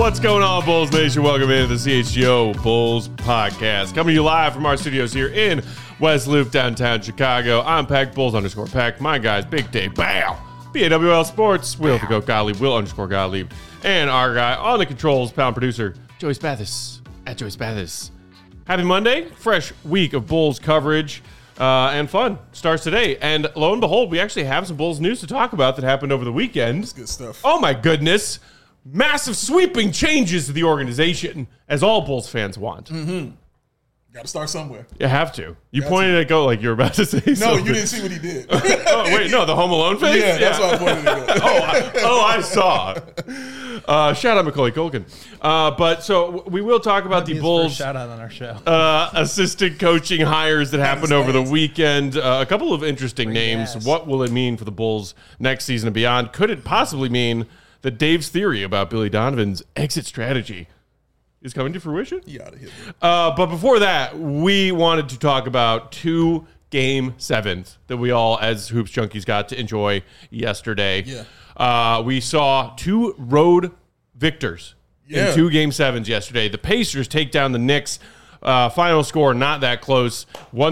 What's going on, Bulls Nation? Welcome into the CHGO Bulls Podcast. Coming to you live from our studios here in West Loop, downtown Chicago. I'm Peck, Bulls_Peck. My guys, Big Dave, Bow, BAWL Sports, Will the Goat Gottlieb, Will_Gottlieb, and our guy on the controls, pound producer, Joey Spathis, at Joey Spathis. Happy Monday. Fresh week of Bulls coverage and fun starts today. And lo and behold, we actually have some Bulls news to talk about that happened over the weekend. That's good stuff. Oh, my goodness. Massive sweeping changes to the organization, as all Bulls fans want. Mm-hmm. Got to start somewhere. You have to. You pointed at Go like you were about to say something. No, you didn't see what he did. Oh, wait, no, the Home Alone face? Yeah, that's why I pointed at Go. I saw. Shout out Macaulay Culkin. But so we will talk about the Bulls. Shout out on our show. Assistant coaching hires that happened over the weekend. A couple of interesting names. Yes. What will it mean for the Bulls next season and beyond? Could it possibly mean that Dave's theory about Billy Donovan's exit strategy is coming to fruition? You out of here. But before that, we wanted to talk about 2 Game 7s that we all, as Hoops Junkies, got to enjoy yesterday. Yeah. We saw 2 road victors in 2 Game 7s yesterday. The Pacers take down the Knicks. Final score, not that close,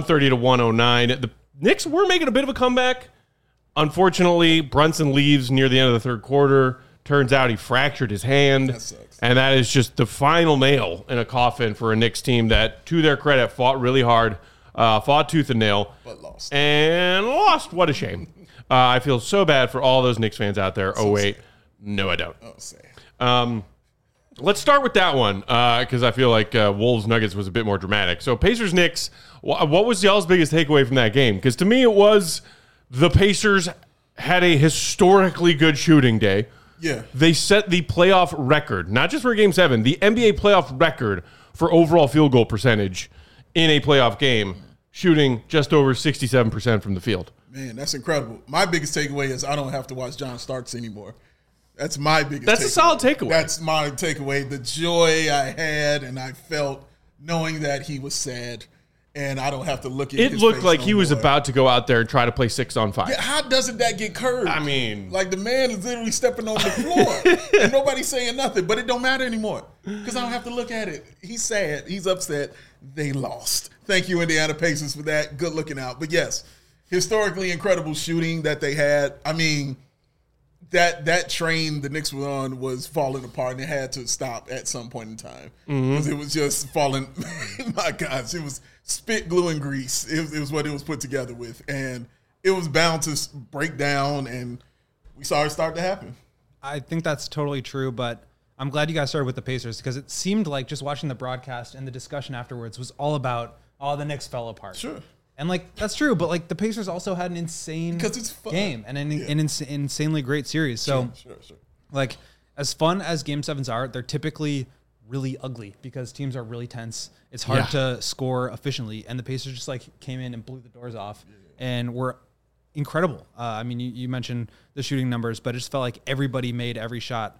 130-109. The Knicks were making a bit of a comeback. Unfortunately, Brunson leaves near the end of the third quarter. Turns out he fractured his hand. That sucks. And that is just the final nail in a coffin for a Knicks team that, to their credit, fought really hard, fought tooth and nail. But lost. And lost. What a shame. I feel so bad for all those Knicks fans out there. So wait. sad. No, I don't. Oh, sad. Let's start with that one because I feel like Wolves Nuggets was a bit more dramatic. So Pacers Knicks, what was y'all's biggest takeaway from that game? Because to me it was the Pacers had a historically good shooting day. Yeah. They set the playoff record, not just for Game 7, the NBA playoff record for overall field goal percentage in a playoff game, shooting just over 67% from the field. Man, that's incredible. My biggest takeaway is I don't have to watch John Starks anymore. That's my biggest That's takeaway. a solid takeaway. That's my takeaway. The joy I had and I felt knowing that he was sad and I don't have to look at It his looked face like no he was more. about to go out there and try to play 6-on-5. Yeah, how doesn't that get curved? I mean, like the man is literally stepping on the floor and nobody's saying nothing, but it don't matter anymore because I don't have to look at it. He's sad. He's upset. They lost. Thank you, Indiana Pacers, for that. Good looking out. But yes, historically incredible shooting that they had. I mean, that train the Knicks were on was falling apart and it had to stop at some point in time because it was just falling. My gosh, it was spit, glue, and grease. It was what it was put together with, and it was bound to break down, and we saw it start to happen. I think that's totally true, but I'm glad you guys started with the Pacers because it seemed like just watching the broadcast and the discussion afterwards was all about, the Knicks fell apart. Sure. And, that's true, but, the Pacers also had an insane Because it's fun. game and an insanely great series. So, Sure. as fun as Game 7s are, they're typically really ugly because teams are really tense. It's hard to score efficiently, and the Pacers just, came in and blew the doors off and were incredible. I mean, you mentioned the shooting numbers, but it just felt like everybody made every shot.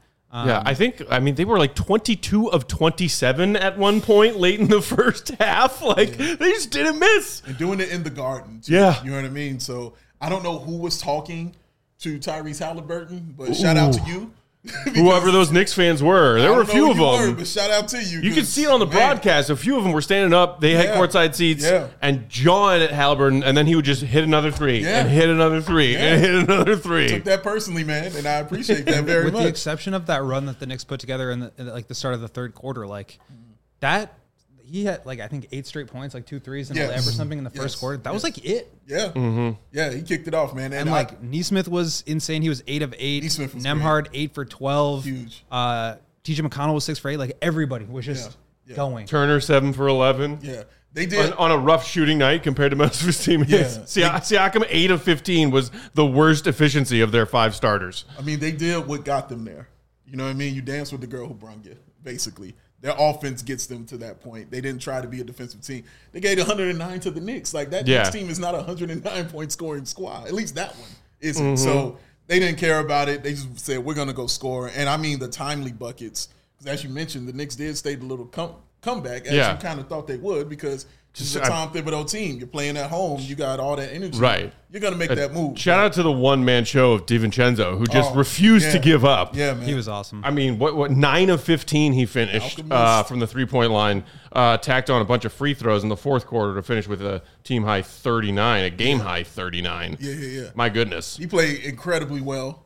They were 22 of 27 at one point late in the first half. They just didn't miss. And doing it in the Garden, too. Yeah. You know what I mean? So I don't know who was talking to Tyrese Halliburton, but shout out to you. Whoever those Knicks fans were. There were a few of them. But shout out to you. You could see it on the broadcast. A few of them were standing up. They had courtside seats and jawing at Halliburton, and then he would just hit another three and hit another three and hit another three. Took that personally, man, and I appreciate that very With much. the exception of that run that the Knicks put together in the start of the third quarter, that he had I think 8 straight points, 2 threes and a layup or something in the first quarter. That was it. Yeah. Mm-hmm. Yeah, he kicked it off, man. And Neesmith was insane. He was 8 of 8. Neesmith was Nemhard 8 for 12. Huge. TJ McConnell was 6 for 8. Everybody was just going. Turner 7 for 11. Yeah. They did. On a rough shooting night compared to most of his teammates. Yeah. Siakam 8 of 15 was the worst efficiency of their 5 starters. I mean, they did what got them there. You know what I mean? You dance with the girl who brung you, basically. Their offense gets them to that point. They didn't try to be a defensive team. They gave 109 to the Knicks. That Knicks team is not a 109-point scoring squad. At least that one isn't. Mm-hmm. So they didn't care about it. They just said, we're going to go score. And, I mean, the timely buckets. Because as you mentioned, the Knicks did stay a little comeback as you kind of thought they would, because it's a Tom Thibodeau team. You're playing at home. You got all that energy. Right. You're going to make that move. Shout out to the one-man show of DiVincenzo, who just refused to give up. Yeah, man. He was awesome. I mean, what 9 of 15 he finished from the three-point line, tacked on a bunch of free throws in the fourth quarter to finish with a team-high 39, a game-high 39. Yeah. My goodness. He played incredibly well.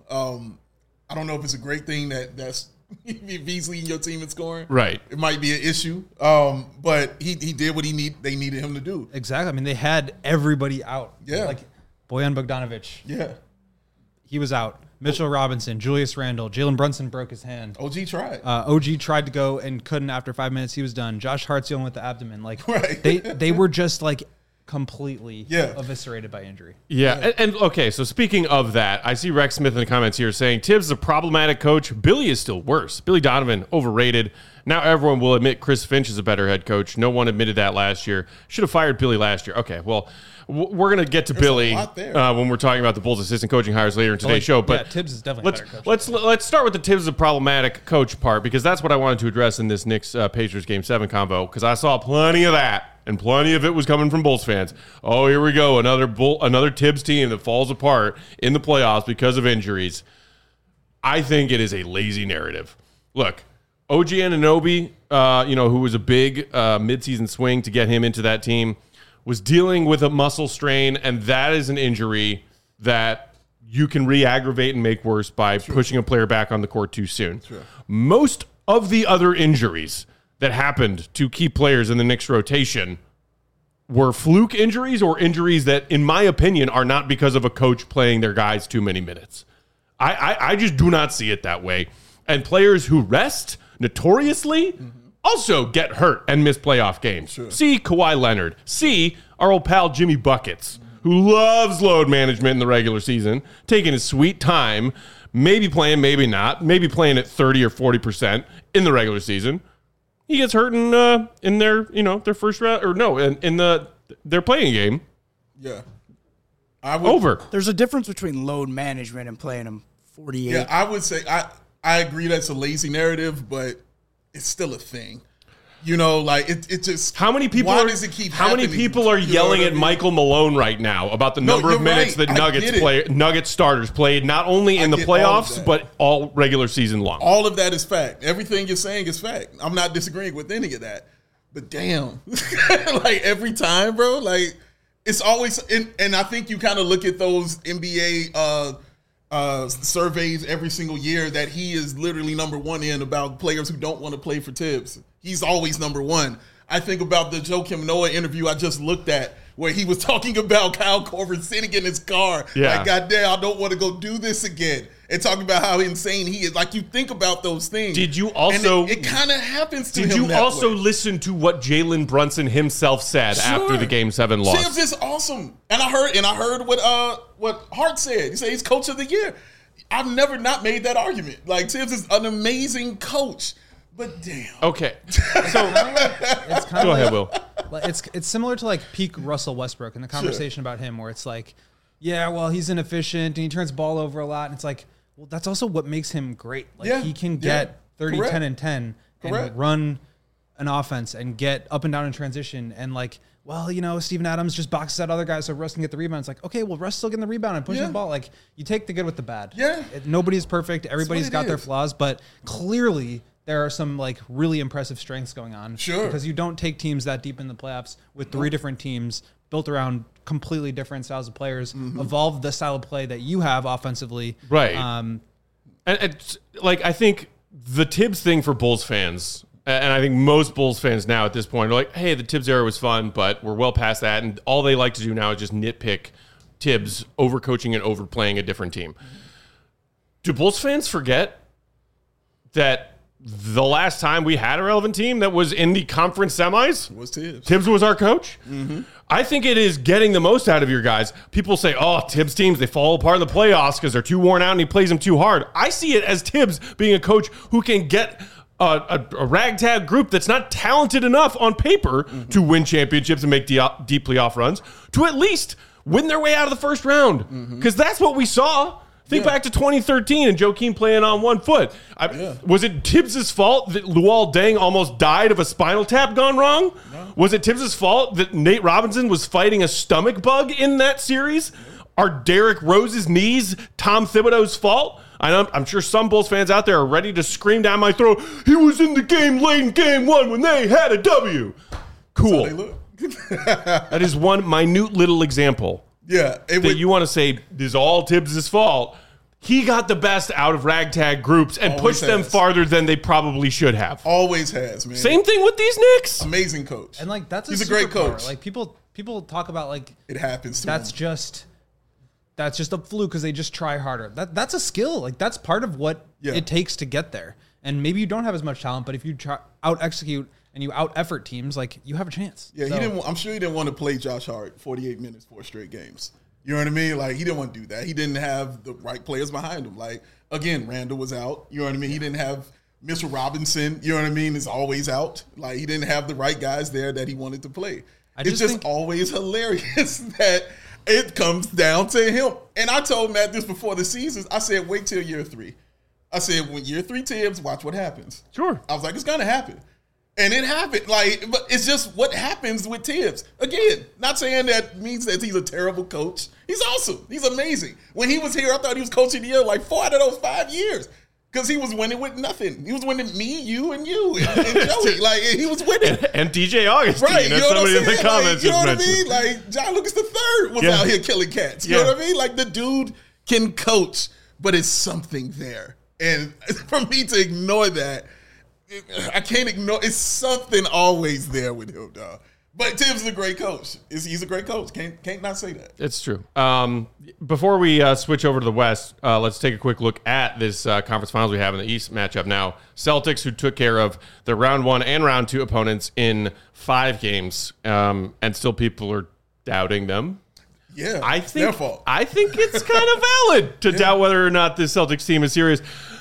I don't know if it's a great thing that's V's leading your team in scoring. Right. It might be an issue. But he did what they needed him to do. Exactly. I mean, they had everybody out. Yeah. Like Bojan Bogdanovic. Yeah. He was out. Mitchell Robinson, Julius Randle, Jalen Brunson broke his hand. OG tried. OG tried to go and couldn't after 5 minutes. He was done. Josh Hart's dealing with the abdomen. Like Right. they were just like completely eviscerated by injury. Yeah. And okay, so speaking of that, I see Rex Smith in the comments here saying Tibbs is a problematic coach. Billy is still worse. Billy Donovan, overrated. Now everyone will admit Chris Finch is a better head coach. No one admitted that last year. Should have fired Billy last year. Okay, well, we're going to get to Billy when we're talking about the Bulls' assistant coaching hires later in today's show. But Tibbs is definitely a better coach. Let's start with the Tibbs is a problematic coach part, because that's what I wanted to address in this Knicks Pacers Game 7 convo, because I saw plenty of that. And plenty of it was coming from Bulls fans. Oh, here we go. Another Tibbs team that falls apart in the playoffs because of injuries. I think it is a lazy narrative. Look, OG Anunoby, who was a big midseason swing to get him into that team, was dealing with a muscle strain, and that is an injury that you can re-aggravate and make worse by pushing a player back on the court too soon. Most of the other injuries that happened to key players in the Knicks rotation were fluke injuries, or injuries that, in my opinion, are not because of a coach playing their guys too many minutes. I just do not see it that way. And players who rest notoriously also get hurt and miss playoff games. See Kawhi Leonard. See our old pal Jimmy Buckets, who loves load management in the regular season, taking his sweet time, maybe playing, maybe not, maybe playing at 30 or 40% in the regular season. He gets hurt in their their first round, or no, in their playing game. Yeah. Over. There's a difference between load management and playing them 48. Yeah, I would say I agree that's a lazy narrative, but it's still a thing. Like it just. How many people? Why does it keep How happening? many people are yelling at Michael Malone right now about the number of minutes that Nuggets starters played, not only in the playoffs but all regular season long? All of that is fact. Everything you're saying is fact. I'm not disagreeing with any of that. But damn, like every time, bro, like it's always. And I think you kind of look at those NBA surveys every single year that he is literally number one in about players who don't want to play for Tibbs. He's always number one. I think about the Joakim Noah interview I just looked at, where he was talking about Kyle Korver sitting in his car. Yeah. Like, goddamn, I don't want to go do this again. And talking about how insane he is. Like, you think about those things. Did you also... And it kind of happens to him Did you that also way. listen to what Jalen Brunson himself said after the Game 7 loss? Tibbs is awesome. And I heard what Hart said. He said he's coach of the year. I've never not made that argument. Like, Tibbs is an amazing coach. But damn. Okay. So It's kind go of ahead, Will. It's similar to like peak Russell Westbrook and the conversation about him, where it's like, yeah, well, he's inefficient and he turns ball over a lot. And it's like, well, that's also what makes him great. Like he can get 30, Correct. 10, and 10 and run an offense and get up and down in transition. And like, well, Steven Adams just boxes out other guys so Russ can get the rebound. It's like, okay, well, Russ still getting the rebound and pushing the ball. Like, you take the good with the bad. Yeah. Nobody's perfect. Everybody's got their is. flaws, but clearly there are some like really impressive strengths going on. Sure. Because you don't take teams that deep in the playoffs with three different teams built around completely different styles of players, evolve the style of play that you have offensively. Right. And it's, like, I think the Tibbs thing for Bulls fans, and I think most Bulls fans now at this point are like, hey, the Tibbs era was fun, but we're well past that. And all they like to do now is just nitpick Tibbs overcoaching and overplaying a different team. Do Bulls fans forget that the last time we had a relevant team that was in the conference semis was Tibbs. Tibbs was our coach? I think it is getting the most out of your guys. People say, oh, Tibbs teams, they fall apart in the playoffs because they're too worn out and he plays them too hard. I see it as Tibbs being a coach who can get a ragtag group that's not talented enough on paper to win championships and make deep playoff runs to at least win their way out of the first round. Because that's what we saw. Think back to 2013 and Joakim playing on one foot. Was it Tibbs' fault that Luol Deng almost died of a spinal tap gone wrong? No. Was it Tibbs' fault that Nate Robinson was fighting a stomach bug in that series? Are Derrick Rose's knees Tom Thibodeau's fault? I'm sure some Bulls fans out there are ready to scream down my throat, he was in the game late in game 1 when they had a W. Cool. That is one minute little example. Yeah. That you want to say is all Tibbs' fault. He got the best out of ragtag groups and pushed them farther than they probably should have. Always has, man. Same thing with these Knicks. Amazing coach. And like he's a great coach. Like people talk about like it happens to that's him. That's just a fluke because they just try harder. That's a skill. Like that's part of what it takes to get there. And maybe you don't have as much talent, but if you try out execute and you out effort teams, like you have a chance. Yeah, I'm sure he didn't want to play Josh Hart 48 minutes 4 straight games. You know what I mean? Like he didn't want to do that. He didn't have the right players behind him. Like again, Randall was out. You know what I mean? He didn't have Mr. Robinson. You know what I mean? Is always out. Like he didn't have the right guys there that he wanted to play. It's just always hilarious that it comes down to him. And I told Matt this before the season. I said, wait till year 3. I said, when year 3 Tibbs, watch what happens. Sure. I was like, it's gonna happen. And it happened. Like, but it's just what happens with Tibbs. Again, not saying that means that he's a terrible coach. He's awesome. He's amazing. When he was here, I thought he was coaching the year like 4 out of those 5 years. Because he was winning with nothing. He was winning me, you, and Joey. Like, he was winning. And DJ Augustine. Right. As somebody in the comments you know what mentioned. I mean? Like, John Lucas III was out here killing cats. You know what I mean? Like, the dude can coach, but it's something there. And for me to ignore that, I can't ignore. It's something always there with him, dog. But Tibbs is a great coach. He's a great coach. Can't not say that. It's true. Before we switch over to the West, let's take a quick look at this conference finals we have in the East matchup now. Celtics, who took care of the round 1 and round 2 opponents in 5 games, and still people are doubting them. Yeah, it's their fault. I think it's kind of valid to doubt whether or not this Celtics team is serious.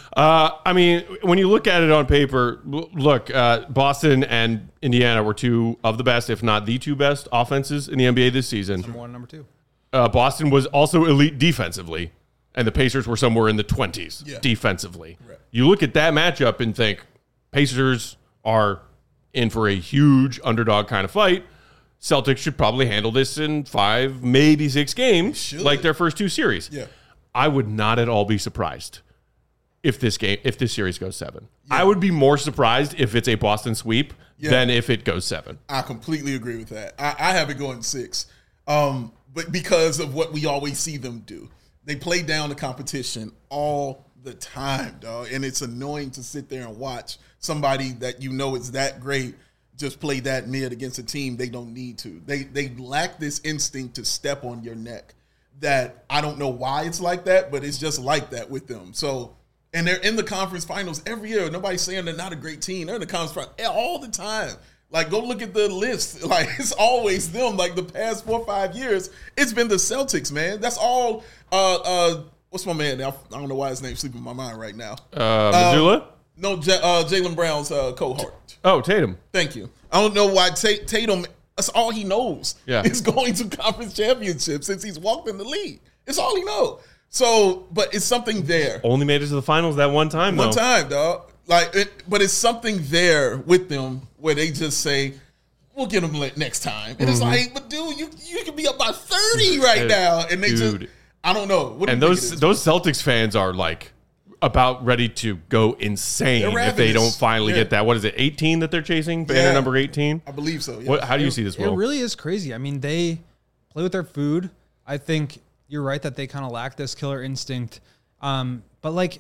I mean, when you look at it on paper, look, Boston and Indiana were 2 of the best, if not the 2 best offenses in the NBA this season. Number 1 and number 2. Boston was also elite defensively, and the Pacers were somewhere in the 20s defensively. Right. You look at that matchup and think Pacers are in for a huge underdog kind of fight. Celtics should probably handle this in 5, maybe 6 games, like their first 2 series. Yeah. I would not at all be surprised if this series goes 7. Yeah. I would be more surprised if it's a Boston sweep than if it goes 7. I completely agree with that. I have it going 6, but because of what we always see them do. They play down the competition all the time, dog, and it's annoying to sit there and watch somebody that you know is that great just play that mid against a team they don't need to. They lack this instinct to step on your neck. That I don't know why it's like that, but it's just like that with them. So. And they're in the conference finals every year. Nobody's saying they're not a great team. They're in the conference finals all the time. Like, go look at the list. Like, it's always them. Like, the past 4 or 5 years, it's been the Celtics, man. That's all. What's my man? I don't know why his name's sleeping in my mind right now. Missoula? No, Jaylen Brown's cohort. Oh, Tatum. Thank you. I don't know why Tatum, that's all he knows. Yeah. Is going to conference championships since he's walked in the league. It's all he knows. So, but it's something there. Only made it to the finals that one time, though. One time, dog. But it's something there with them where they just say, we'll get them next time. And it's like, but dude, you can be up by 30 right now. And they just, I don't know. And those Celtics fans are like about ready to go insane if they don't finally get that. What is it, 18 that they're chasing? Banner number 18? I believe so. Yeah. How do you see this, Will? It really is crazy. I mean, they play with their food. I think you're right that they kind of lack this killer instinct. But like,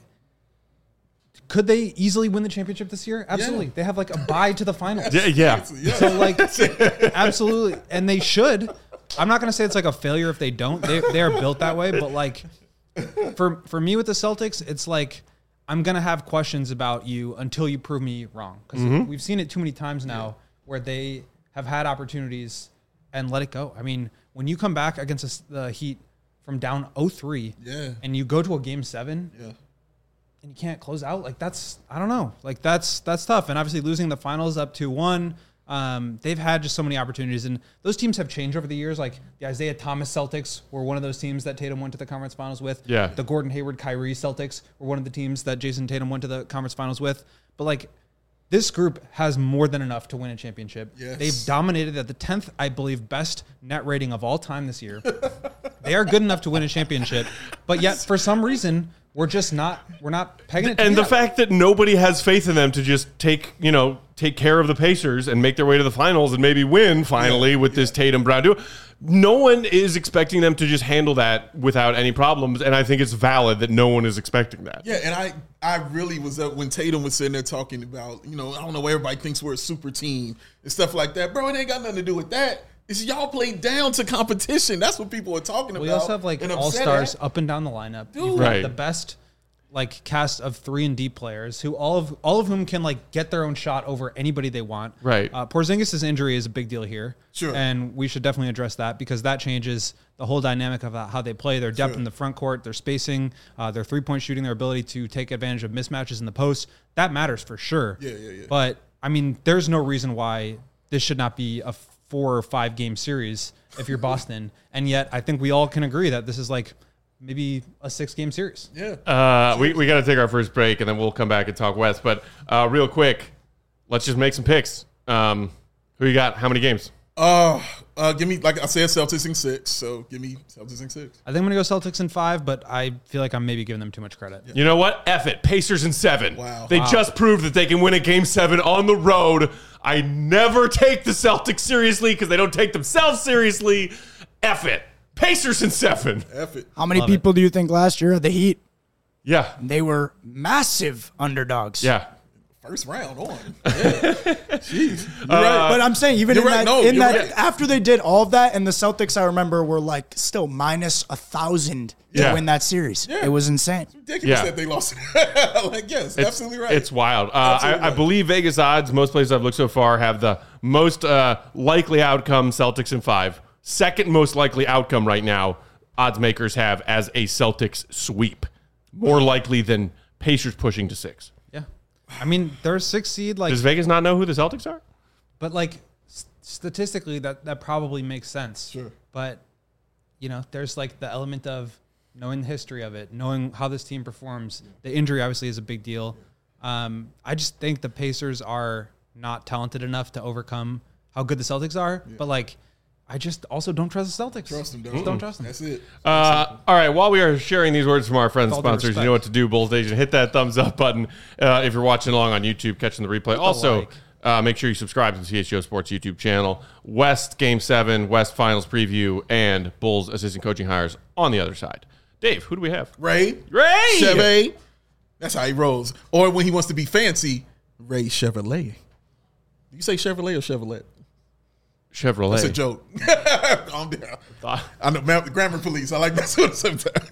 could they easily win the championship this year? Absolutely. Yeah. They have like a bye to the finals. Yeah. So like, absolutely. And they should. I'm not going to say it's like a failure if they don't. They are built that way. But like, for me with the Celtics, it's like, I'm going to have questions about you until you prove me wrong. Because we've seen it too many times now where they have had opportunities and let it go. I mean, when you come back against the Heat from down 0-3 and you go to a game 7 and you can't close out, like that's, I don't know, like that's tough. And obviously losing the finals up 2-1, They've had just so many opportunities, and those teams have changed over the years. Like the Isaiah Thomas Celtics were one of those teams that Tatum went to the conference finals with. Yeah. The Gordon Hayward Kyrie Celtics were one of the teams that Jason Tatum went to the conference finals with. But like this group has more than enough to win a championship. Yes. They've dominated at the 10th, I believe, best net rating of all time this year. They are good enough to win a championship, but yet for some reason we're not pegging it. And the fact that nobody has faith in them to just take care of the Pacers and make their way to the finals and maybe win finally with this Tatum Brown duo. No one is expecting them to just handle that without any problems, and I think it's valid that no one is expecting that. Yeah, and I really was up when Tatum was sitting there talking about, I don't know, everybody thinks we're a super team and stuff like that. Bro, it ain't got nothing to do with that. It's y'all play down to competition. That's what people are talking about. We also have like and all-stars upset up and down the lineup. Dude. You've got Right. the best like cast of 3-and-D players who all of whom can like get their own shot over anybody they want. Right. Porzingis' injury is a big deal here. Sure. And we should definitely address that because that changes the whole dynamic of how they play, their depth in the front court, their spacing, their three-point shooting, their ability to take advantage of mismatches in the post. That matters for sure. Yeah. But I mean, there's no reason why this should not be a 4 or 5 game series if you're Boston. And yet I think we all can agree that this is like maybe a 6-game series. Yeah. We got to take our first break, and then we'll come back and talk West. But real quick, let's just make some picks. Who you got? How many games? Give me, like I said, Celtics in 6. So give me Celtics in 6. I think I'm going to go Celtics in 5, but I feel like I'm maybe giving them too much credit. You know what? F it. Pacers in 7. Wow. They just proved that they can win a game 7 on the road. I never take the Celtics seriously because they don't take themselves seriously. F it. Pacers in 7. F it. How many people do you think last year had the Heat? Yeah. They were massive underdogs. Yeah. First round on. Yeah. Jeez. You're right. But I'm saying even You're in right. that, No, in you're that right. after they did all of that, and the Celtics, I remember, were like still minus 1,000 Yeah. to win that series. Yeah. It was insane. Ridiculous Yeah. that they lost it. Like, yes, absolutely right. It's wild. Absolutely I right. believe Vegas odds, most places I've looked so far, have the most likely outcome Celtics in 5. Second most likely outcome right now, odds makers have as a Celtics sweep. More likely than Pacers pushing to 6. Yeah. I mean, they're a 6 seed, like, Does Vegas not know who the Celtics are? but like statistically, that probably makes sense. Sure. But there's like the element of knowing the history of it, knowing how this team performs. The injury obviously is a big deal. I just think the Pacers are not talented enough to overcome how good the Celtics are. But like, I just also don't trust the Celtics. Trust them, dog. Just don't trust them. That's it. All right, while we are sharing these words from our friends and With all due sponsors, you respect. know what to do, Bulls Nation. Hit that thumbs up button if you're watching along on YouTube, catching the replay. Also, make sure you subscribe to the CHGO Sports YouTube channel. West Game 7, West Finals Preview, and Bulls assistant coaching hires on the other side. Dave, who do we have? Ray Chevy. That's how he rolls. Or when he wants to be fancy, Ray Chevrolet. You say Chevrolet or Chevrolet? Chevrolet. That's a joke. Calm down. I know, grammar police. I like that sort of sometimes.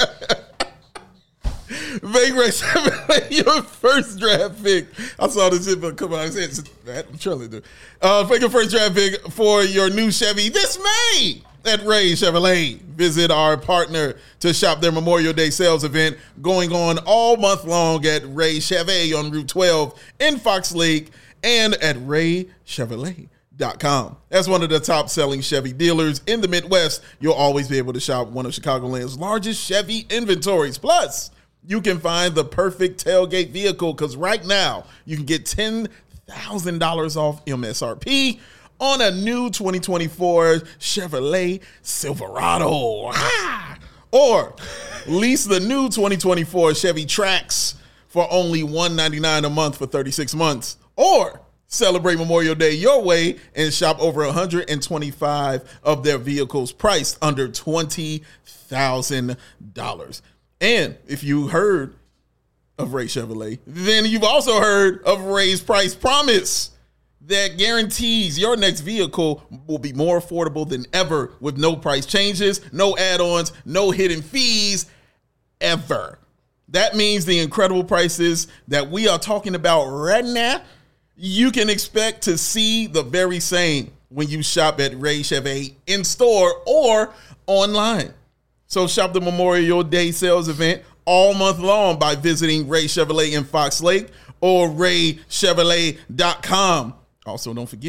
Make Ray Chevrolet your first draft pick. I saw this shit come out. I said, I'm trying to do. Pick your first draft pick for your new Chevy this May at Ray Chevrolet. Visit our partner to shop their Memorial Day sales event going on all month long at Ray Chevy on Route 12 in Fox Lake and at RayChevrolet.com. As one of the top selling Chevy dealers in the Midwest, you'll always be able to shop one of Chicagoland's largest Chevy inventories. Plus, you can find the perfect tailgate vehicle because right now you can get $10,000 off MSRP on a new 2024 Chevrolet Silverado. Or lease the new 2024 Chevy Trax for only $199 a month for 36 months. Or celebrate Memorial Day your way and shop over 125 of their vehicles priced under $20,000. And if you heard of Ray Chevrolet, then you've also heard of Ray's Price Promise that guarantees your next vehicle will be more affordable than ever with no price changes, no add-ons, no hidden fees, ever. That means the incredible prices that we are talking about right now, you can expect to see the very same when you shop at Ray Chevy in store or online. So shop the Memorial Day sales event all month long by visiting Ray Chevrolet in Fox Lake or RayChevrolet.com. Also, don't forget,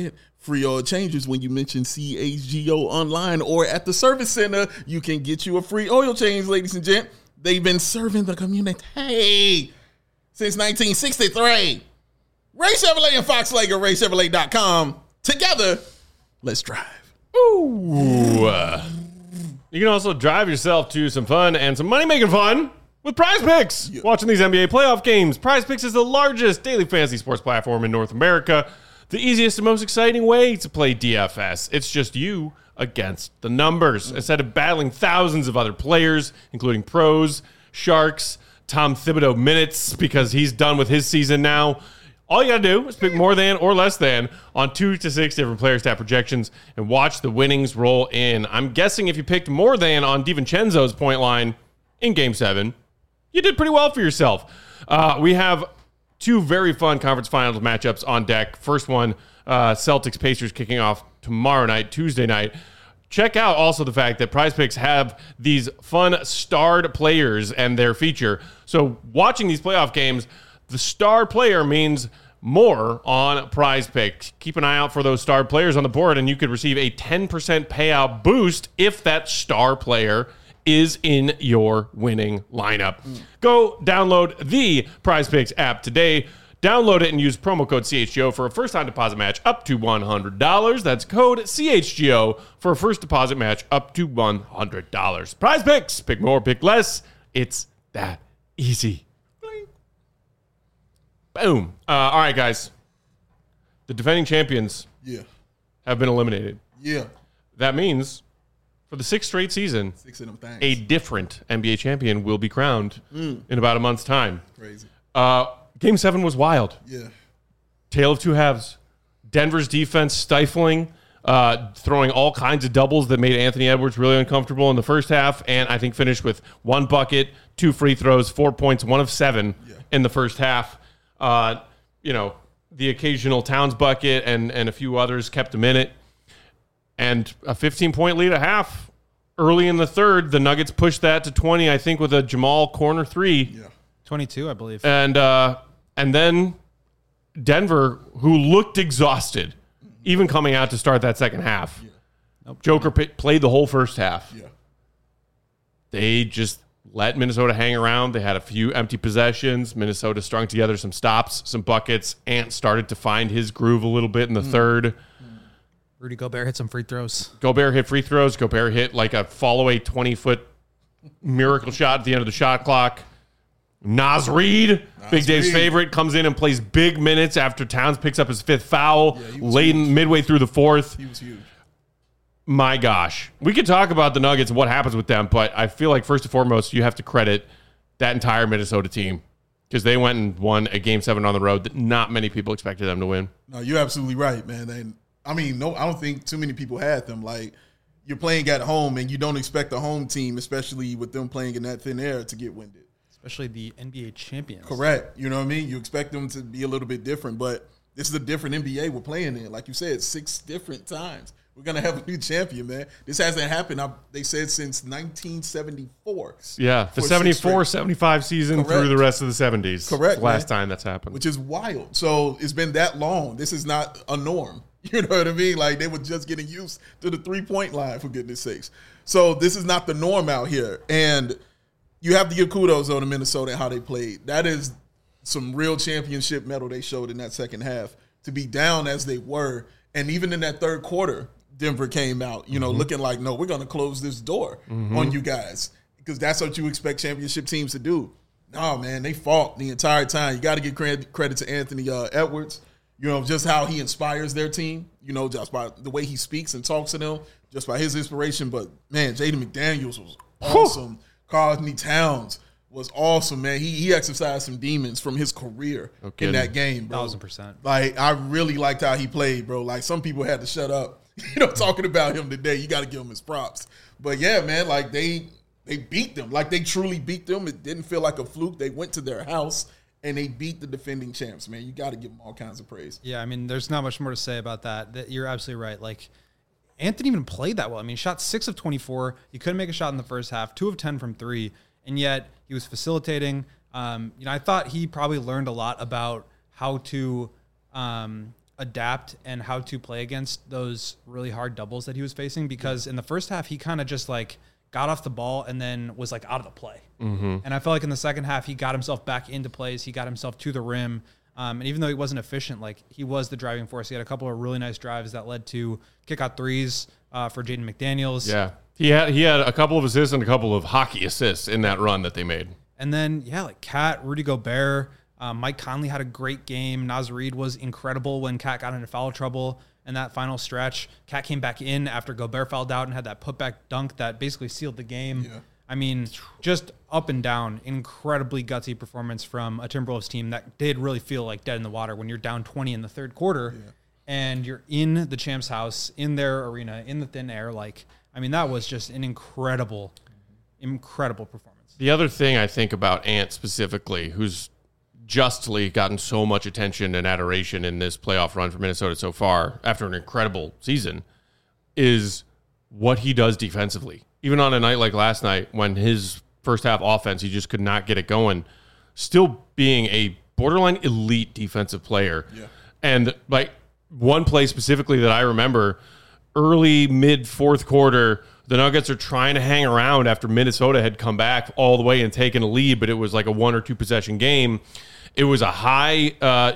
free oil changes when you mention CHGO online or at the service center. You can get you a free oil change, ladies and gents. They've been serving the community since 1963. Ray Chevrolet and Fox Lake at RayChevrolet.com. Together, let's drive. Ooh. You can also drive yourself to some fun and some money-making fun with Prize Picks. Yeah. Watching these NBA playoff games, Prize Picks is the largest daily fantasy sports platform in North America. The easiest and most exciting way to play DFS. It's just you against the numbers. Instead of battling thousands of other players, including pros, sharks, Tom Thibodeau minutes, because he's done with his season now, all you got to do is pick more than or less than on 2 to 6 different player stat projections and watch the winnings roll in. I'm guessing if you picked more than on DiVincenzo's point line in Game 7, you did pretty well for yourself. We have 2 very fun conference finals matchups on deck. First one, Celtics-Pacers kicking off tomorrow night, Tuesday night. Check out also the fact that Prize Picks have these fun starred players and their feature. So watching these playoff games, the star player means more on Prize Picks. Keep an eye out for those star players on the board, and you could receive a 10% payout boost if that star player is in your winning lineup. Go download the Prize Picks app today. Download it and use promo code CHGO for a first-time deposit match up to $100. That's code CHGO for a first deposit match up to $100. Prize Picks. Pick more, pick less. It's that easy. Boom. All right, guys. The defending champions have been eliminated. Yeah. That means for the 6th straight season, 6 of them things. a different NBA champion will be crowned in about a month's time. Crazy. Game 7 was wild. Yeah. Tale of two halves. Denver's defense stifling, throwing all kinds of doubles that made Anthony Edwards really uncomfortable in the first half, and I think finished with 1 bucket, 2 free throws, 4 points, 1 of 7 in the first half. The occasional Towns bucket and a few others kept them in it. And a 15-point lead at half. Early in the third, the Nuggets pushed that to 20, I think, with a Jamal corner 3. Yeah. 22, I believe. And then Denver, who looked exhausted, even coming out to start that second half. Yeah. Nope. Joker played the whole first half. Yeah. They just let Minnesota hang around. They had a few empty possessions. Minnesota strung together some stops, some buckets. Ant started to find his groove a little bit in the third. Rudy Gobert hit some free throws. Gobert hit free throws. Gobert hit like a fall-away 20-foot miracle shot at the end of the shot clock. Naz Reid, Big Dave's favorite, comes in and plays big minutes after Towns picks up his 5th foul late midway through the 4th. He was huge. My gosh. We could talk about the Nuggets and what happens with them, but I feel like first and foremost, you have to credit that entire Minnesota team because they went and won a Game 7 on the road that not many people expected them to win. No, you're absolutely right, man. And I don't think too many people had them. Like, you're playing at home, and you don't expect the home team, especially with them playing in that thin air, to get winded. Especially the NBA champions. Correct. You know what I mean? You expect them to be a little bit different, but this is a different NBA we're playing in. Like you said, 6 different times. We're going to have a new champion, man. This hasn't happened, they said, since 1974. Yeah, the 74-75 season through the rest of the 70s. Correct. The last time that's happened. Which is wild. So it's been that long. This is not a norm. You know what I mean? Like, they were just getting used to the 3-point line, for goodness sakes. So this is not the norm out here. And you have to give kudos on to Minnesota and how they played. That is some real championship mettle they showed in that second half. To be down as they were, and even in that third quarter, Denver came out, looking like, no, we're going to close this door on you guys because that's what you expect championship teams to do. No, man, they fought the entire time. You got to give credit to Anthony Edwards, just how he inspires their team, just by the way he speaks and talks to them, just by his inspiration. But, man, Jaden McDaniels was awesome. Karl Anthony Towns was awesome, man. He exercised some demons from his career in that game, bro. 1,000%. Like, I really liked how he played, bro. Like, some people had to shut up, talking about him today. You got to give him his props. But, yeah, man, like, they beat them. Like, they truly beat them. It didn't feel like a fluke. They went to their house, and they beat the defending champs, man. You got to give them all kinds of praise. Yeah, I mean, there's not much more to say about that. You're absolutely right. Like, Anthony even played that well. I mean, he shot 6 of 24. He couldn't make a shot in the first half, 2 of 10 from 3, and yet he was facilitating. I thought he probably learned a lot about how to adapt and how to play against those really hard doubles that he was facing, because in the first half, he kind of just like got off the ball and then was like out of the play. And I felt like in the second half, he got himself back into plays. He got himself to the rim. And even though he wasn't efficient, like he was the driving force. He had a couple of really nice drives that led to kick out threes for Jaden McDaniels. Yeah. He had a couple of assists and a couple of hockey assists in that run that they made. And then, like Cat, Rudy Gobert, Mike Conley had a great game. Naz Reid was incredible when Cat got into foul trouble in that final stretch. Cat came back in after Gobert fouled out and had that putback dunk that basically sealed the game. Yeah. I mean, just up and down, incredibly gutsy performance from a Timberwolves team that did really feel like dead in the water when you're down 20 in the third quarter and you're in the Champs House, in their arena, in the thin air. Like, I mean, that was just an incredible performance. The other thing I think about Ant specifically, who's justly gotten so much attention and adoration in this playoff run for Minnesota so far after an incredible season, is what he does defensively. Even on a night like last night when his first half offense, he just could not get it going, still being a borderline elite defensive player. Yeah. And like one play specifically that I remember, early mid fourth quarter, the Nuggets are trying to hang around after Minnesota had come back all the way and taken a lead, but it was like a 1 or 2 possession game. It was a high,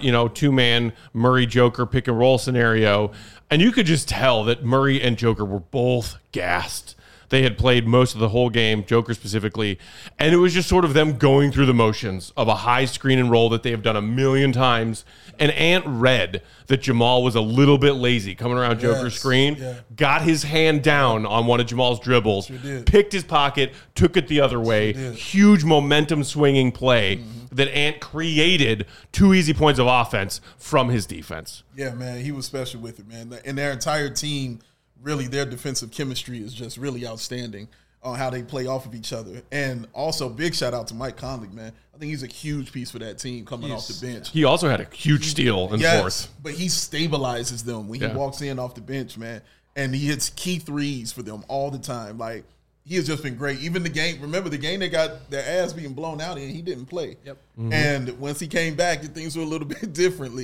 2-man Murray Joker pick and roll scenario. And you could just tell that Murray and Joker were both gassed. They had played most of the whole game, Joker specifically, and it was just sort of them going through the motions of a high screen and roll that they have done a million times. And Ant read that Jamal was a little bit lazy coming around Joker's screen, got his hand down on one of Jamal's dribbles, picked his pocket, took it the other way. Huge momentum swinging play that Ant created 2 easy points of offense from his defense. Yeah, man, he was special with it, man. And their entire team, really, their defensive chemistry is just really outstanding on how they play off of each other. And also, big shout out to Mike Conley, man. I think he's a huge piece for that team coming off the bench. He also had a huge steal in fourth. But he stabilizes them when he walks in off the bench, man. And he hits key threes for them all the time. Like, he has just been great. Even the game, remember the game they got their ass being blown out in, he didn't play. Yep. And once he came back, things were a little bit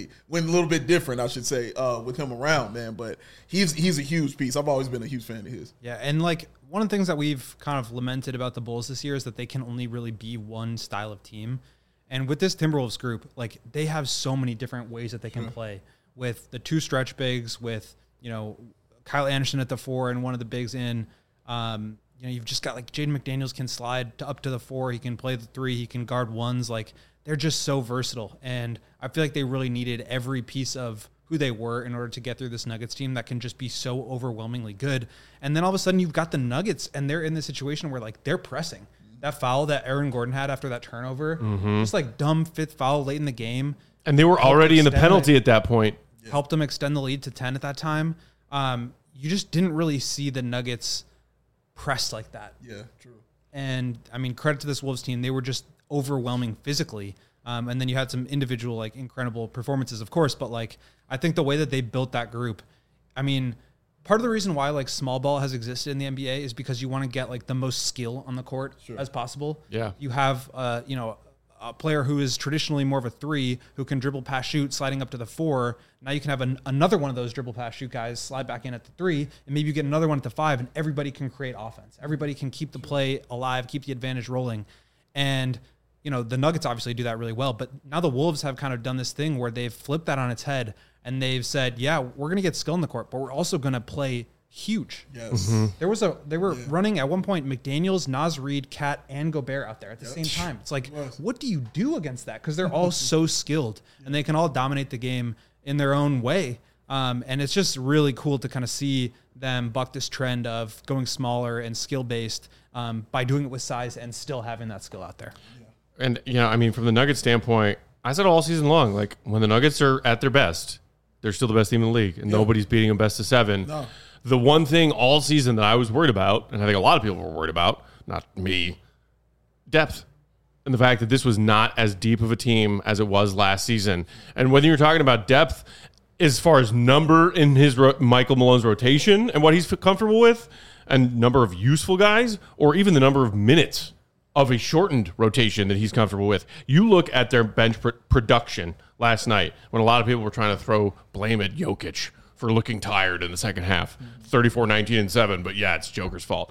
different, I should say, with him around, man. But he's a huge piece. I've always been a huge fan of his. Yeah, and like one of the things that we've kind of lamented about the Bulls this year is that they can only really be one style of team. And with this Timberwolves group, like they have so many different ways that they can play with the 2 stretch bigs, with, Kyle Anderson at the 4 and one of the bigs in, you've just got like Jaden McDaniels can slide up to the 4. He can play the 3. He can guard ones. Like they're just so versatile. And I feel like they really needed every piece of who they were in order to get through this Nuggets team that can just be so overwhelmingly good. And then all of a sudden you've got the Nuggets and they're in this situation where like they're pressing. That foul that Aaron Gordon had after that turnover, just like dumb 5th foul late in the game. And they were already in the penalty at that point. Helped them extend the lead to 10 at that time. You just didn't really see the Nuggets pressed like that. Yeah, true. And I mean, credit to this Wolves team. They were just overwhelming physically. And then you had some individual, like incredible performances, of course. But like, I think the way that they built that group, I mean, part of the reason why like small ball has existed in the NBA is because you want to get like the most skill on the court as possible. Yeah. You have, a player who is traditionally more of a 3 who can dribble, pass, shoot, sliding up to the 4. Now you can have another one of those dribble, pass, shoot guys slide back in at the 3, and maybe you get another one at the 5, and everybody can create offense. Everybody can keep the play alive, keep the advantage rolling. And, the Nuggets obviously do that really well, but now the Wolves have kind of done this thing where they've flipped that on its head, and they've said, yeah, we're going to get skill in the court, but we're also going to play huge. Yes. They were running at one point McDaniels, Naz Reid, Cat, and Gobert out there at the same time. It's like, what do you do against that? Because they're all so skilled and they can all dominate the game in their own way. And it's just really cool to kind of see them buck this trend of going smaller and skill based by doing it with size and still having that skill out there. And from the Nuggets standpoint, I said all season long, like when the Nuggets are at their best, they're still the best team in the league, and nobody's beating them best of 7. No. The one thing all season that I was worried about, and I think a lot of people were worried about, not me, depth. And the fact that this was not as deep of a team as it was last season. And whether you're talking about depth as far as number in his Michael Malone's rotation and what he's comfortable with, and number of useful guys, or even the number of minutes of a shortened rotation that he's comfortable with. You look at their bench production last night when a lot of people were trying to throw blame at Jokic for looking tired in the second half. 34, 19, and 7, but yeah, it's Joker's fault.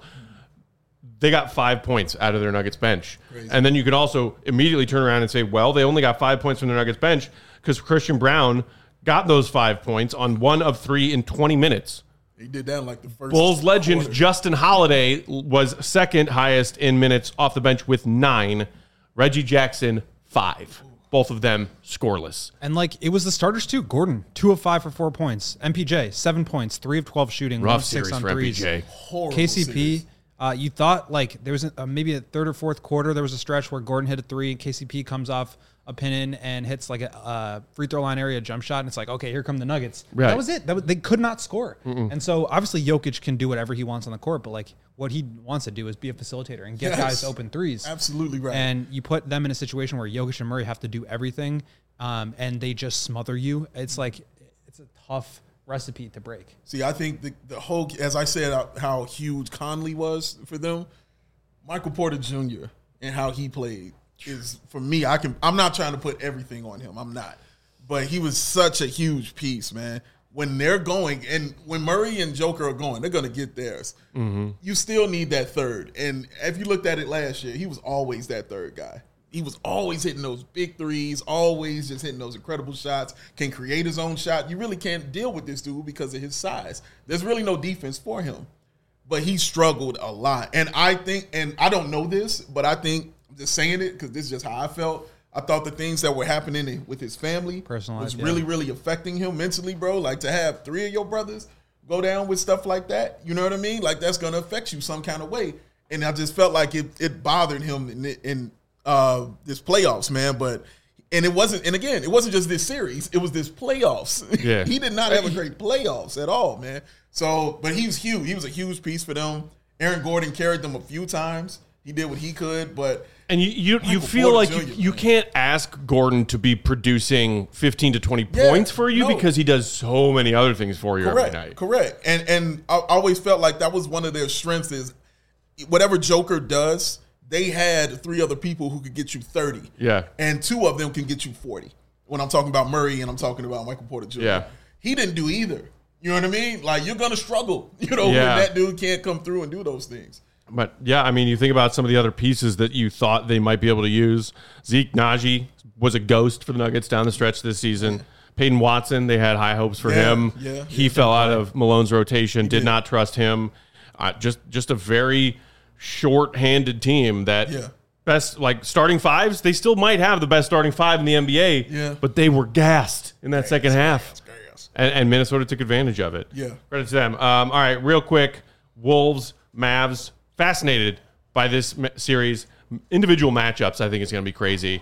They got 5 points out of their Nuggets bench. Crazy. And then you can also immediately turn around and say, well, they only got 5 points from their Nuggets bench because Christian Brown got those 5 points on 1 of 3 in 20 minutes. He did that in like the first Bulls legend quarter. Justin Holiday was second highest in minutes off the bench with 9. Reggie Jackson, 5. Both of them scoreless. And like it was the starters too. Gordon, 2 of 5 for 4 points. MPJ, 7 points, 3 of 12 shooting, Rough 1 of 6 series on for threes. MPJ. Horrible KCP, series. You thought like there was maybe a third or fourth quarter, there was a stretch where Gordon hit a 3 and KCP comes off a pin in and hits like a free throw line area jump shot. And it's like, okay, here come the Nuggets. Right. That was it. They could not score. And so obviously Jokic can do whatever he wants on the court, but like what he wants to do is be a facilitator and get guys open threes. Absolutely right. And you put them in a situation where Jokic and Murray have to do everything and they just smother you. It's like, it's a tough recipe to break. See, I think the whole, as I said, how huge Conley was for them, Michael Porter Jr. and how he played is, for me, I'm not trying to put everything on him. I'm not. But he was such a huge piece, man. When they're going, and when Murray and Joker are going, they're going to get theirs. Mm-hmm. You still need that third. And if you looked at it last year, he was always that third guy. He was always hitting those big threes, always just hitting those incredible shots, can create his own shot. You really can't deal with this dude because of his size. There's really no defense for him. But he struggled a lot. And I think, and I don't know this, but I think, I'm just saying it because this is just how I felt. I thought the things that were happening with his family was really, really affecting him mentally, bro. Like to have 3 of your brothers go down with stuff like that, you know what I mean? Like that's going to affect you some kind of way. And I just felt like it bothered him in this playoffs, man. It wasn't just this series. It was this playoffs. Yeah. He did not have a great playoffs at all, man. So, but he was huge. He was a huge piece for them. Aaron Gordon carried them a few times. He did what he could, but and you feel like you can't ask Gordon to be producing 15 to 20 points for you because he does so many other things for you every night. Correct. And I always felt like that was one of their strengths is whatever Joker does, they had 3 other people who could get you 30. Yeah. And 2 of them can get you 40. When I'm talking about Murray and I'm talking about Michael Porter Jr. Yeah. He didn't do either. You know what I mean? Like you're going to struggle, when that dude can't come through and do those things. But, yeah, I mean, you think about some of the other pieces that you thought they might be able to use. Zeke Naji was a ghost for the Nuggets down the stretch this season. Yeah. Peyton Watson, they had high hopes for him. Yeah, he fell out of Malone's rotation, did not trust him. Just a very short-handed team that best, like, starting fives, they still might have the best starting 5 in the NBA, but they were gassed in that second half. And Minnesota took advantage of it. Yeah. Credit to them. All right, real quick, Wolves, Mavs. Fascinated by this series. Individual matchups, I think, is going to be crazy.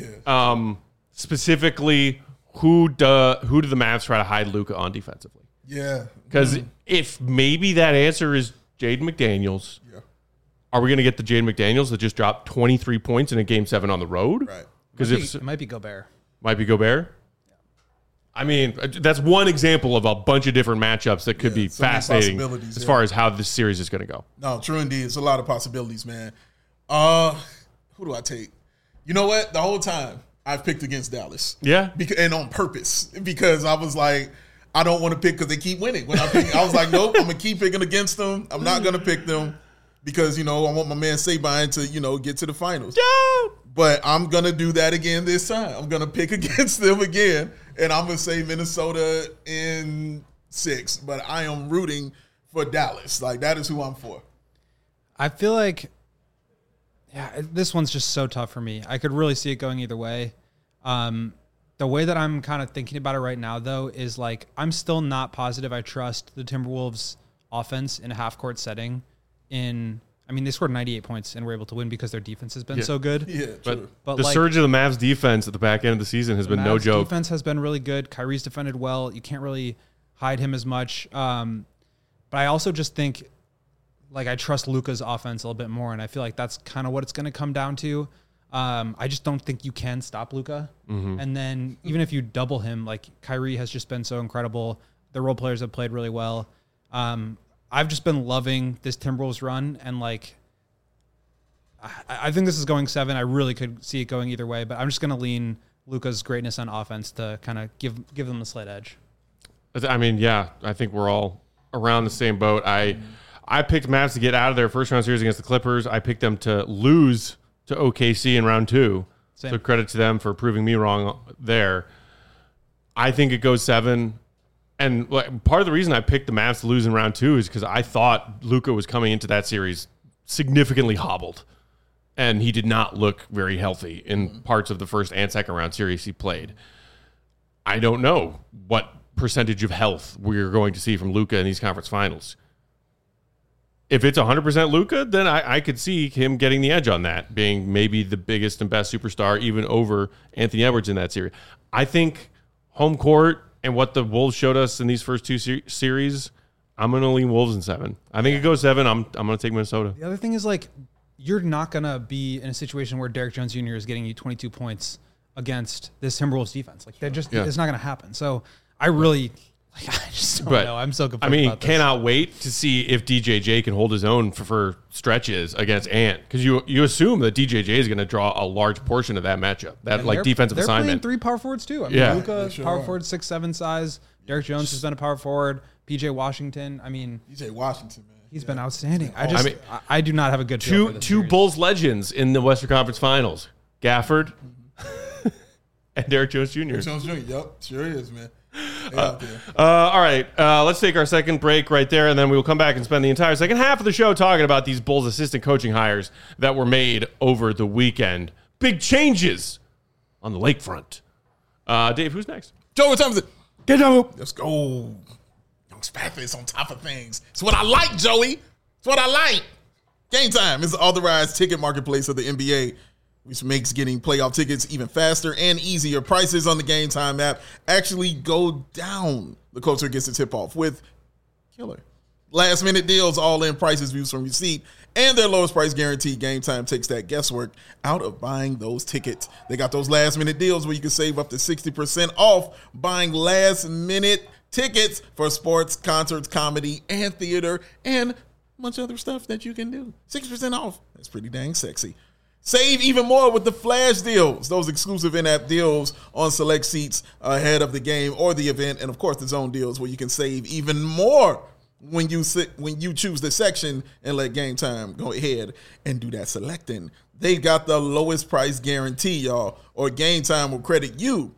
Yeah. Specifically, who do the Mavs try to hide Luka on defensively? Yeah. Because if maybe that answer is Jaden McDaniels, are we going to get the Jaden McDaniels that just dropped 23 points in a Game 7 on the road? Right. Because it might be Gobert. Might be Gobert? I mean, that's one example of a bunch of different matchups that could be fascinating as far as how this series is going to go. No, true indeed. It's a lot of possibilities, man. Who do I take? You know what? The whole time, I've picked against Dallas. Yeah. And on purpose. Because I was like, I don't want to pick because they keep winning. When I was like, nope, I'm going to keep picking against them. I'm not going to pick them because, I want my man Sabine to, get to the finals. Yeah. But I'm going to do that again this time. I'm going to pick against them again. And I'm going to say Minnesota in 6. But I am rooting for Dallas. Like, that is who I'm for. I feel like, this one's just so tough for me. I could really see it going either way. The way that I'm kind of thinking about it right now, though, is like I'm still not positive I trust the Timberwolves offense in a half-court setting. They scored 98 points and were able to win because their defense has been so good. Yeah, but the surge of the Mavs defense at the back end of the season has been no joke. Defense has been really good. Kyrie's defended well. You can't really hide him as much. But I also just think, I trust Luka's offense a little bit more, and I feel like that's kind of what it's going to come down to. I just don't think you can stop Luka. Mm-hmm. And then even if you double him, Kyrie has just been so incredible. The role players have played really well. I've just been loving this Timberwolves run, and I think this is going 7. I really could see it going either way, but I'm just going to lean Luka's greatness on offense to kind of give them a slight edge. I mean, yeah, I think we're all around the same boat. I picked Mavs to get out of their first round series against the Clippers. I picked them to lose to OKC in round 2. Same. So credit to them for proving me wrong there. I think it goes 7. And part of the reason I picked the Mavs to lose in round 2 is because I thought Luka was coming into that series significantly hobbled. And he did not look very healthy in parts of the first and second round series he played. I don't know what percentage of health we're going to see from Luka in these conference finals. If it's 100% Luka, then I could see him getting the edge on that, being maybe the biggest and best superstar, even over Anthony Edwards in that series. I think home court and what the Wolves showed us in these first 2 series, I'm going to lean Wolves in 7. I think it goes 7. I'm going to take Minnesota. The other thing is, you're not going to be in a situation where Derrick Jones Jr. is getting you 22 points against this Timberwolves defense. It's not going to happen. So I just don't know. I'm so confused. About this. Cannot wait to see if DJJ can hold his own for stretches against Ant, because you assume that DJJ is going to draw a large portion of that matchup, defensive they're assignment. They're playing 3 power forwards too. Luka, power forward, 6'7" size. Derrick Jones has been a power forward. PJ Washington. PJ Washington, man. He's been outstanding. I do not have a good feel for this two series. Bulls legends in the Western Conference Finals: Gafford and Derrick Jones Jr. Derrick Jones Jr. Yep, sure is, man. All right, let's take our second break right there, and then we will come back and spend the entire second half of the show talking about these Bulls assistant coaching hires that were made over the weekend. Big changes on the lakefront. Dave, who's next? Joey Thompson. Get down. Let's go. Young Spathis on top of things. It's what I like, Joey. It's what I like. Game Time is the authorized ticket marketplace of the NBA, which makes getting playoff tickets even faster and easier. Prices on the Game Time app actually go down. The culture gets a tip-off with killer last-minute deals, all-in prices, views from your seat, and their lowest price guarantee. Game Time takes that guesswork out of buying those tickets. They got those last-minute deals where you can save up to 60% off buying last-minute tickets for sports, concerts, comedy, and theater, and a bunch of other stuff that you can do. 60% off. That's pretty dang sexy. Save even more with the flash deals, those exclusive in-app deals on select seats ahead of the game or the event, and of course the zone deals where you can save even more when you choose the section and let Game Time go ahead and do that selecting. They got the lowest price guarantee, y'all, or Game Time will credit you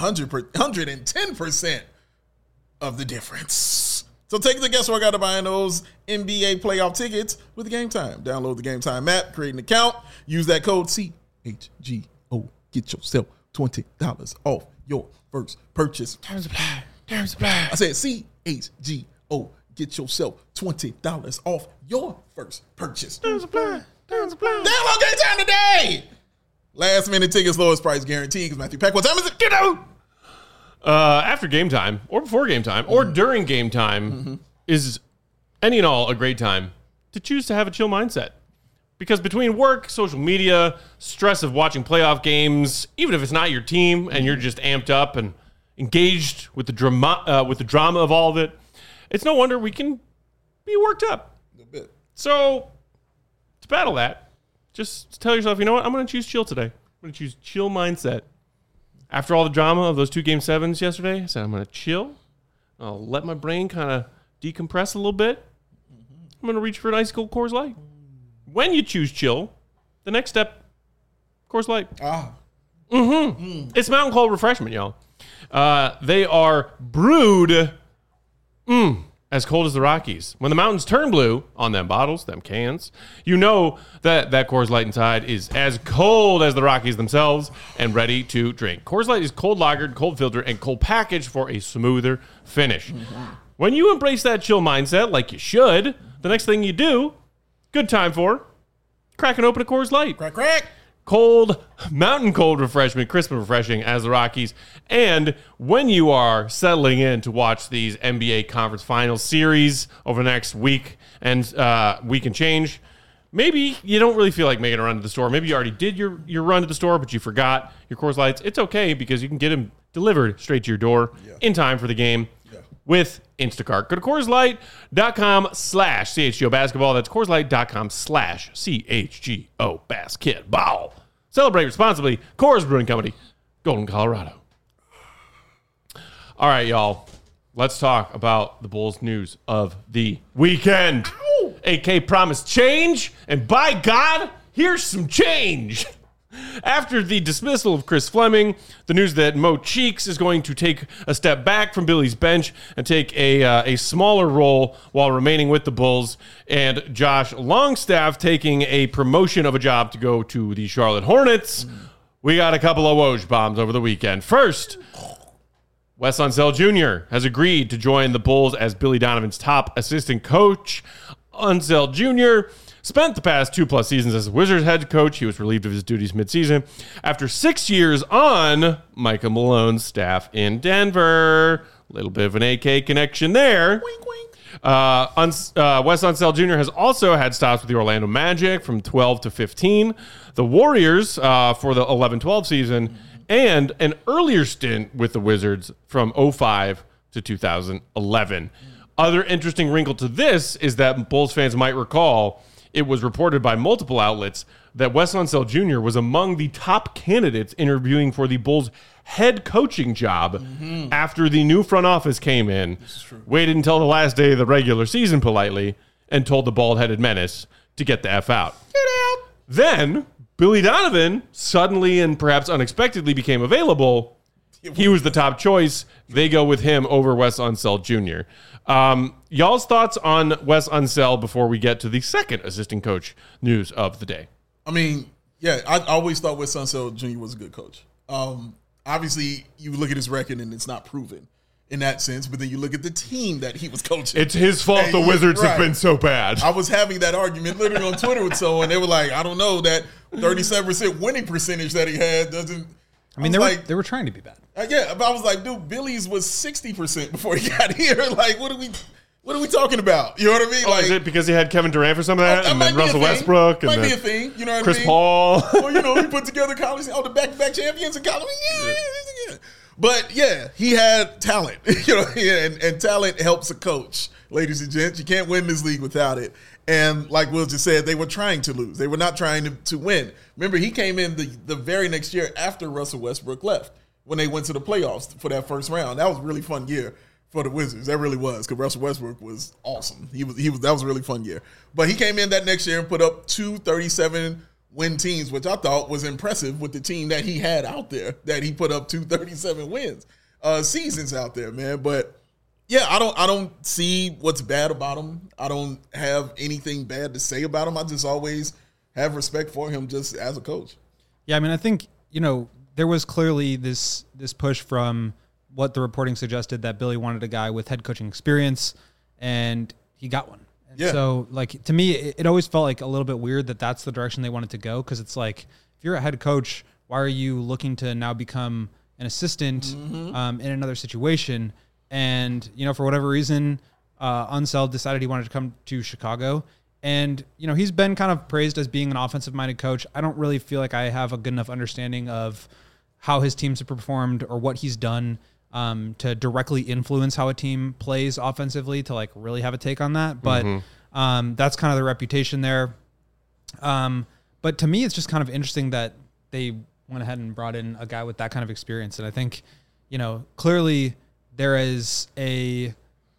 110% of the difference. So take the guesswork out of buying those NBA playoff tickets with Game Time. Download the Game Time app, create an account, use that code CHGO. Get yourself $20 off your first purchase. Terms apply. I said CHGO. Get yourself $20 off your first purchase. Terms apply. Download Game Time today. Last minute tickets, lowest price guarantee. Because Matthew Peck, what time is it? Get out. After game time, or before game time, or during game time, is any and all a great time to choose to have a chill mindset. Because between work, social media, stress of watching playoff games, even if it's not your team and you're just amped up and engaged with the drama of all of it, it's no wonder we can be worked up. A little bit. So to battle that, just tell yourself, you know what? I'm going to choose chill today. I'm going to choose chill mindset. After all the drama of those 2 Game 7s yesterday, I said, I'm going to chill. I'll let my brain kind of decompress a little bit. I'm going to reach for an ice cold Coors Light. When you choose chill, the next step, Coors Light. It's Mountain Cold Refreshment, y'all. They are brewed as cold as the Rockies. When the mountains turn blue on them bottles, them cans, you know that Coors Light inside is as cold as the Rockies themselves and ready to drink. Coors Light is cold lagered, cold filtered, and cold packaged for a smoother finish. When you embrace that chill mindset like you should, the next thing you do, good time for cracking open a Coors Light. Crack. Cold, mountain cold refreshment, crisp and refreshing as the Rockies. And when you are settling in to watch these NBA Conference Finals series over the next week and change, maybe you don't really feel like making a run to the store. Maybe you already did your run to the store, but you forgot your Coors Lights. It's okay because you can get them delivered straight to your door in time for the game with Instacart. Go to CoorsLight.com/CHGO basketball. That's CoorsLight.com/CHGO basketball. Celebrate responsibly. Coors Brewing Company, Golden, Colorado. All right, y'all. Let's talk about the Bulls news of the weekend. Ow! AK promised change, and by God, here's some change. After the dismissal of Chris Fleming, the news that Mo Cheeks is going to take a step back from Billy's bench and take a smaller role while remaining with the Bulls, and Josh Longstaff taking a promotion of a job to go to the Charlotte Hornets. We got a couple of Woj bombs over the weekend. First, Wes Unseld Jr. has agreed to join the Bulls as Billy Donovan's top assistant coach. Unseld Jr. spent the past 2+ seasons as a Wizards head coach. He was relieved of his duties midseason after 6 years on Micah Malone's staff in Denver. A little bit of an AK connection there. Wink, wink. Wes Unseld Jr. has also had stops with the Orlando Magic from 12 to 15, the Warriors for the 11-12 season, and an earlier stint with the Wizards from 05 to 2011. Other interesting wrinkle to this is that Bulls fans might recall it was reported by multiple outlets that Wes Unseld Jr. was among the top candidates interviewing for the Bulls head coaching job after the new front office came in, waited until the last day of the regular season politely, and told the bald-headed menace to get the F out. Get out! Then Billy Donovan suddenly and perhaps unexpectedly became available. He was the top choice. They go with him over Wes Unseld Jr. Y'all's thoughts on Wes Unseld before we get to the second assistant coach news of the day? I mean, yeah, I always thought Wes Unseld Jr. was a good coach. Obviously, you look at his record and it's not proven in that sense, but then you look at the team that he was coaching. It's his fault the Wizards have been so bad. I was having that argument literally on Twitter with someone. They were like, I don't know, that 37% winning percentage that he had doesn't. I mean, they were trying to be bad. Yeah, but I was like, dude, Billy's was 60% before he got here. Like, what are we talking about? You know what I mean? Like, is it because he had Kevin Durant for some of that, and then Russell Westbrook, and might then be a thing. You know what Chris I mean? Paul? Well, he put together college, the back-to-back champions in college. Yeah. But yeah, he had talent, and talent helps a coach, ladies and gents. You can't win this league without it. And like Will just said, they were trying to lose. They were not trying to win. Remember, he came in the very next year after Russell Westbrook left when they went to the playoffs for that first round. That was a really fun year for the Wizards. That really was, because Russell Westbrook was awesome. That was a really fun year. But he came in that next year and put up 2 37-win teams, which I thought was impressive with the team that he had out there, that he put up 2 37 wins seasons out there, man. But yeah, I don't see what's bad about him. I don't have anything bad to say about him. I just always have respect for him just as a coach. Yeah, I mean, I think, there was clearly this push from what the reporting suggested, that Billy wanted a guy with head coaching experience, and he got one. And yeah. So, to me, it always felt like a little bit weird that that's the direction they wanted to go, because it's like, if you're a head coach, why are you looking to now become an assistant in another situation? And, for whatever reason, Unseld decided he wanted to come to Chicago. And, he's been kind of praised as being an offensive-minded coach. I don't really feel like I have a good enough understanding of how his teams have performed or what he's done to directly influence how a team plays offensively to, really have a take on that. But that's kind of the reputation there. But to me, it's just kind of interesting that they went ahead and brought in a guy with that kind of experience. And I think, clearly there is a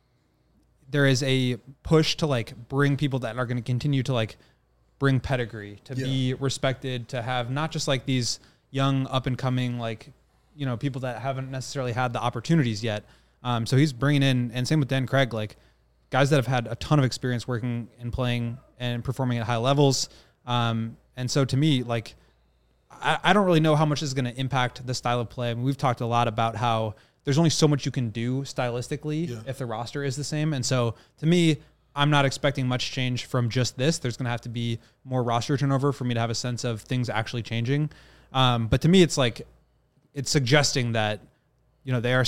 push to bring people that are going to continue to bring pedigree, to be respected, to have not just these young up and coming, people that haven't necessarily had the opportunities yet. So he's bringing in, and same with Dan Craig, guys that have had a ton of experience working and playing and performing at high levels. And so to me, I don't really know how much this is going to impact the style of play. I mean, we've talked a lot about how there's only so much you can do stylistically if the roster is the same. And so to me, I'm not expecting much change from just this. There's going to have to be more roster turnover for me to have a sense of things actually changing. But to me, it's suggesting that, they're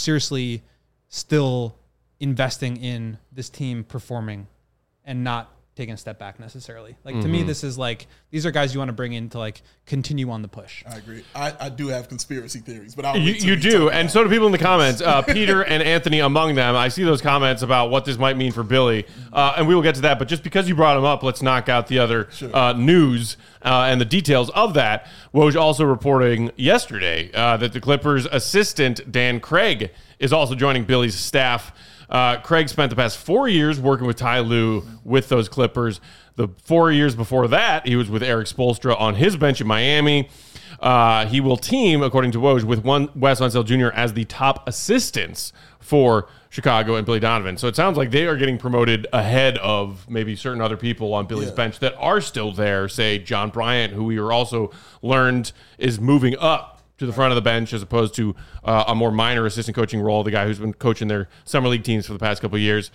seriously still investing in this team performing and not taking a step back necessarily. Like to me, this is like, these are guys you want to bring in to like continue on the push. I agree. I do have conspiracy theories, but you do, and so do people in the comments. Peter and Anthony among them. I see those comments about what this might mean for Billy, and we will get to that. But just because you brought him up, let's knock out the other news and the details of that. Woj also reporting yesterday that the Clippers' assistant Dan Craig is also joining Billy's staff. Craig spent the past 4 years working with Ty Lue with those Clippers. The 4 years before that, he was with Eric Spoelstra on his bench in Miami. He will team, according to Woj, with Wes Unseld Jr. as the top assistants for Chicago and Billy Donovan. So it sounds like they are getting promoted ahead of maybe certain other people on Billy's bench that are still there, say John Bryant, who we were also learned is moving up to the front of the bench as opposed to a more minor assistant coaching role, the guy who's been coaching their summer league teams for the past couple of years.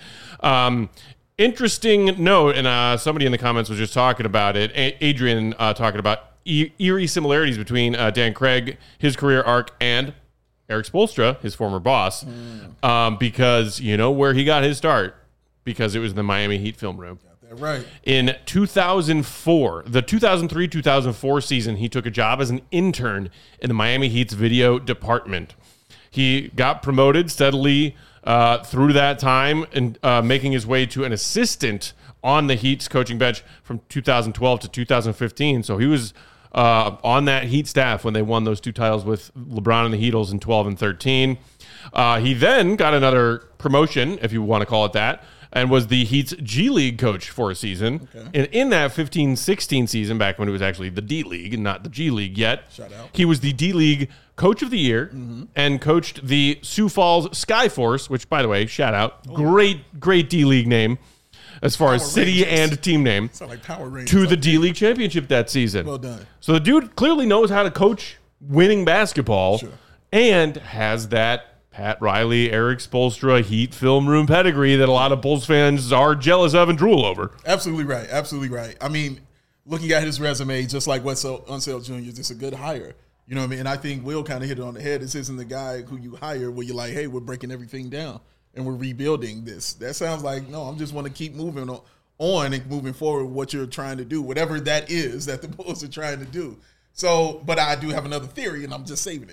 Interesting note, and somebody in the comments was just talking about it, Adrian talking about eerie similarities between Dan Craig, his career arc, and Eric Spoelstra, his former boss, because you know where he got his start, because it was the Miami Heat film room. Right. In 2004, the 2003-2004 season, he took a job as an intern in the Miami Heat's video department. He got promoted steadily through that time and making his way to an assistant on the Heat's coaching bench from 2012 to 2015. So he was on that Heat staff when they won those two titles with LeBron and the Heatles in 12 and 13. He then got another promotion, if you want to call it that, and was the Heat's G League coach for a season. Okay. And in that 15-16 season, back when it was actually the D League and not the G League yet, he was the D League Coach of the Year and coached the Sioux Falls Skyforce, which, by the way, shout out, great D League name as far as city and team name, like Power Rangers, to the D League championship that season. Well done. So the dude clearly knows how to coach winning basketball and has that Pat Riley, Eric Spoelstra, Heat film room pedigree that a lot of Bulls fans are jealous of and drool over. Absolutely right. Absolutely right. I mean, looking at his resume, just like Wes Unseld Jr., it's a good hire. You know what I mean? And I think Will kind of hit it on the head. This isn't the guy who you hire where you're like, hey, we're breaking everything down and we're rebuilding this. That sounds like, no, I'm just want to keep moving on and moving forward what you're trying to do, whatever that is that the Bulls are trying to do. So, but I do have another theory, and I'm just saving it.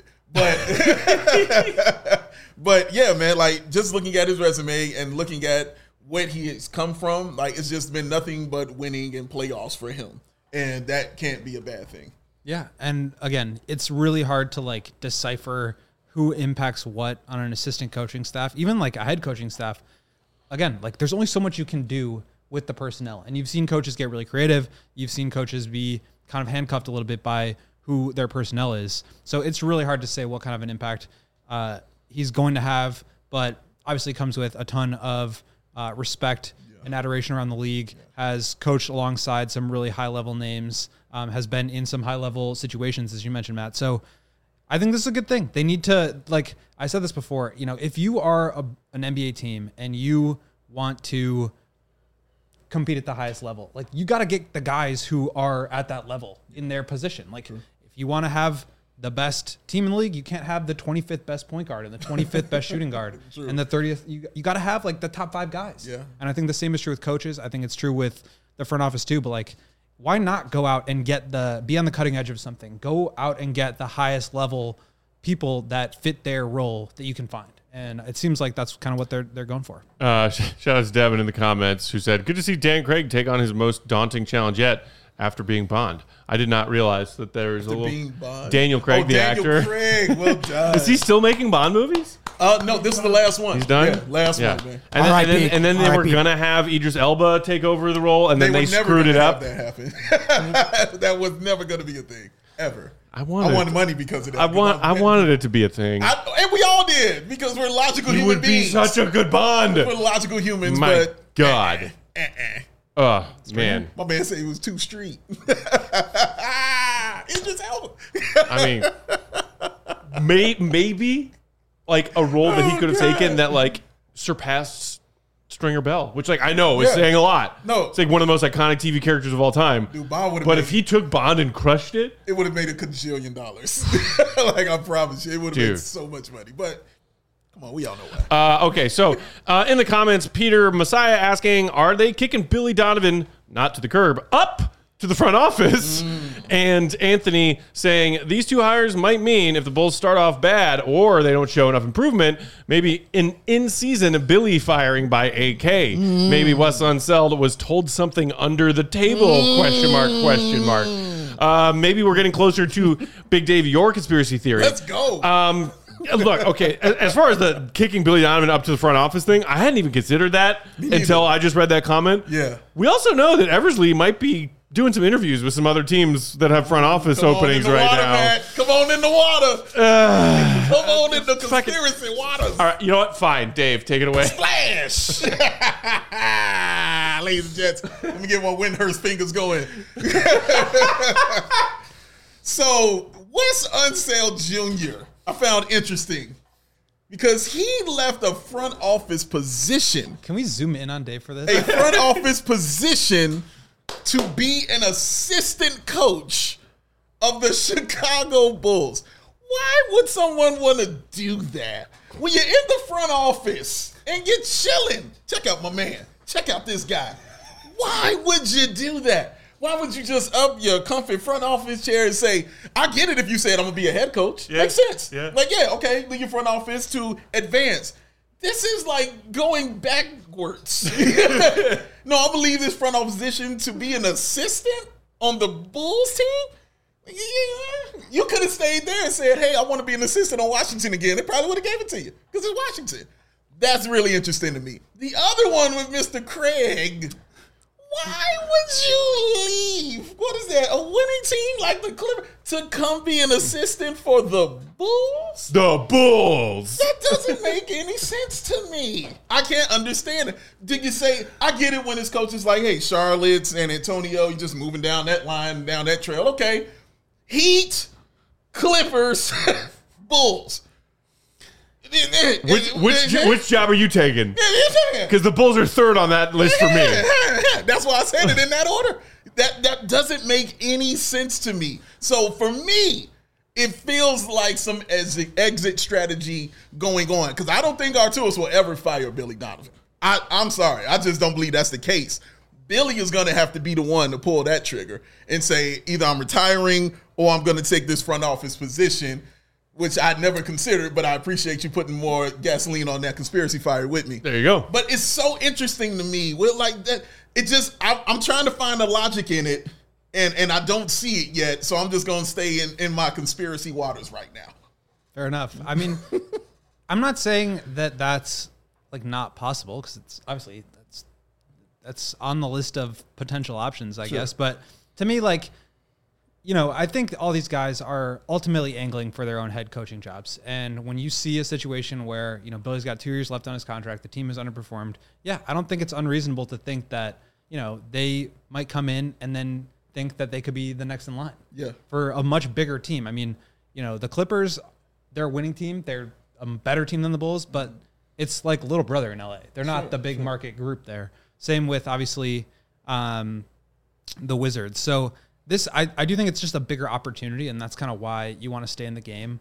But yeah, man, like just looking at his resume and looking at what he has come from, like it's just been nothing but winning and playoffs for him. And that can't be a bad thing. Yeah. And again, it's really hard to like decipher who impacts what on an assistant coaching staff, even like a head coaching staff. Again, like there's only so much you can do with the personnel. And you've seen coaches get really creative. You've seen coaches be kind of handcuffed a little bit by who their personnel is. So it's really hard to say what kind of an impact he's going to have, but obviously comes with a ton of respect and adoration around the league, has coached alongside some really high-level names, has been in some high-level situations, as you mentioned, Matt. So I think this is a good thing. They need to, like I said this before, you know, if you are an NBA team and you want to compete at the highest level, like you got to get the guys who are at that level in their position. Like if you want to have the best team in the league, you can't have the 25th best point guard and the 25th best shooting guard and the 30th. You got to have like the top 5 guys. Yeah. And I think the same is true with coaches. I think it's true with the front office too, but like, why not go out and be on the cutting edge of something? Go out and get the highest level people that fit their role that you can find. And it seems like that's kind of what they're going for. Shout out to Devin in the comments who said, good to see Dan Craig take on his most daunting challenge yet after being Bond. I did not realize that there was a little Daniel Craig, the actor. Daniel Craig, well done. Is he still making Bond movies? No, this is the last one. He's done? Yeah, last one, man. And then they were going to have Idris Elba take over the role, and then they screwed it up. That happened. That was never going to be a thing, ever. I wanted money because of that. I wanted it to be a thing. And we all did, because we're logical human beings. You would be such a good Bond. We're logical humans, My God. Oh, man. My man said he was too street. Idris Elba. I mean, maybe like a role that he could have taken that like surpassed Stringer Bell, which like I know is saying a lot. No, it's like one of the most iconic TV characters of all time. Dude, Bond would have. But if he took Bond and crushed it, it would have made $1 gajillion. Like I promise you, it would have made so much money. But come on, we all know why. Okay, so in the comments, Peter Messiah asking, are they kicking Billy Donovan not to the curb, up to the front office. And Anthony saying these two hires might mean if the Bulls start off bad or they don't show enough improvement, maybe an in-season Billy firing by AK. Maybe Wes Unseld was told something under the table, question mark. Maybe we're getting closer to Big Dave, your conspiracy theory. Let's go. Look, okay, as far as the kicking Billy Donovan up to the front office thing, I hadn't even considered that until I just read that comment. Yeah. We also know that Eversley might be doing some interviews with some other teams that have front office openings right now. Man. Come on in the water. Come on in the conspiracy waters. All right, you know what? Fine, Dave, take it away. Splash. Ladies and gents, let me get my Windhurst fingers going. So, Wes Unseld Jr., I found interesting because he left a front office position. Can we zoom in on Dave for this? A front office position to be an assistant coach of the Chicago Bulls. Why would someone want to do that? When you're in the front office and you're chilling, check out my man. Check out this guy. Why would you do that? Why would you just up your comfy front office chair and say, I get it if you said I'm going to be a head coach. Yeah. Makes sense. Yeah. Like, yeah, okay, leave your front office to advance. This is like going backwards. No, I believe this front office position to be an assistant on the Bulls team. Yeah, you could have stayed there and said, hey, I want to be an assistant on Washington again. They probably would have gave it to you because it's Washington. That's really interesting to me. The other one with Mr. Craig, why would you leave? What is that, a winning team like the Clippers to come be an assistant for the Bulls? The Bulls. That doesn't make any sense to me. I can't understand it. Did you say, I get it when his coach is like, hey, Charlotte, San Antonio, you're just moving down that line, down that trail. Okay. Heat, Clippers, Bulls. Which job are you taking? Because the Bulls are third on that list for me. That's why I said it in that order. That doesn't make any sense to me. So for me, it feels like some exit strategy going on. Because I don't think Arturas will ever fire Billy Donovan. I'm sorry. I just don't believe that's the case. Billy is going to have to be the one to pull that trigger and say, either I'm retiring or I'm going to take this front office position, which I'd never considered, but I appreciate you putting more gasoline on that conspiracy fire with me. There you go. But it's so interesting to me. With like that, it just, I'm trying to find the logic in it, and I don't see it yet, so I'm just going to stay in my conspiracy waters right now. Fair enough. I mean, I'm not saying that that's like not possible, because it's obviously that's on the list of potential options, I guess. But to me, like, you know, I think all these guys are ultimately angling for their own head coaching jobs. And when you see a situation where, you know, Billy's got 2 years left on his contract, the team has underperformed. Yeah, I don't think it's unreasonable to think that, you know, they might come in and then think that they could be the next in line for a much bigger team. I mean, you know, the Clippers, they're a winning team. They're a better team than the Bulls, but it's like little brother in LA. They're not the big market group there. Same with, obviously, the Wizards. So this, I do think it's just a bigger opportunity, and that's kind of why you want to stay in the game.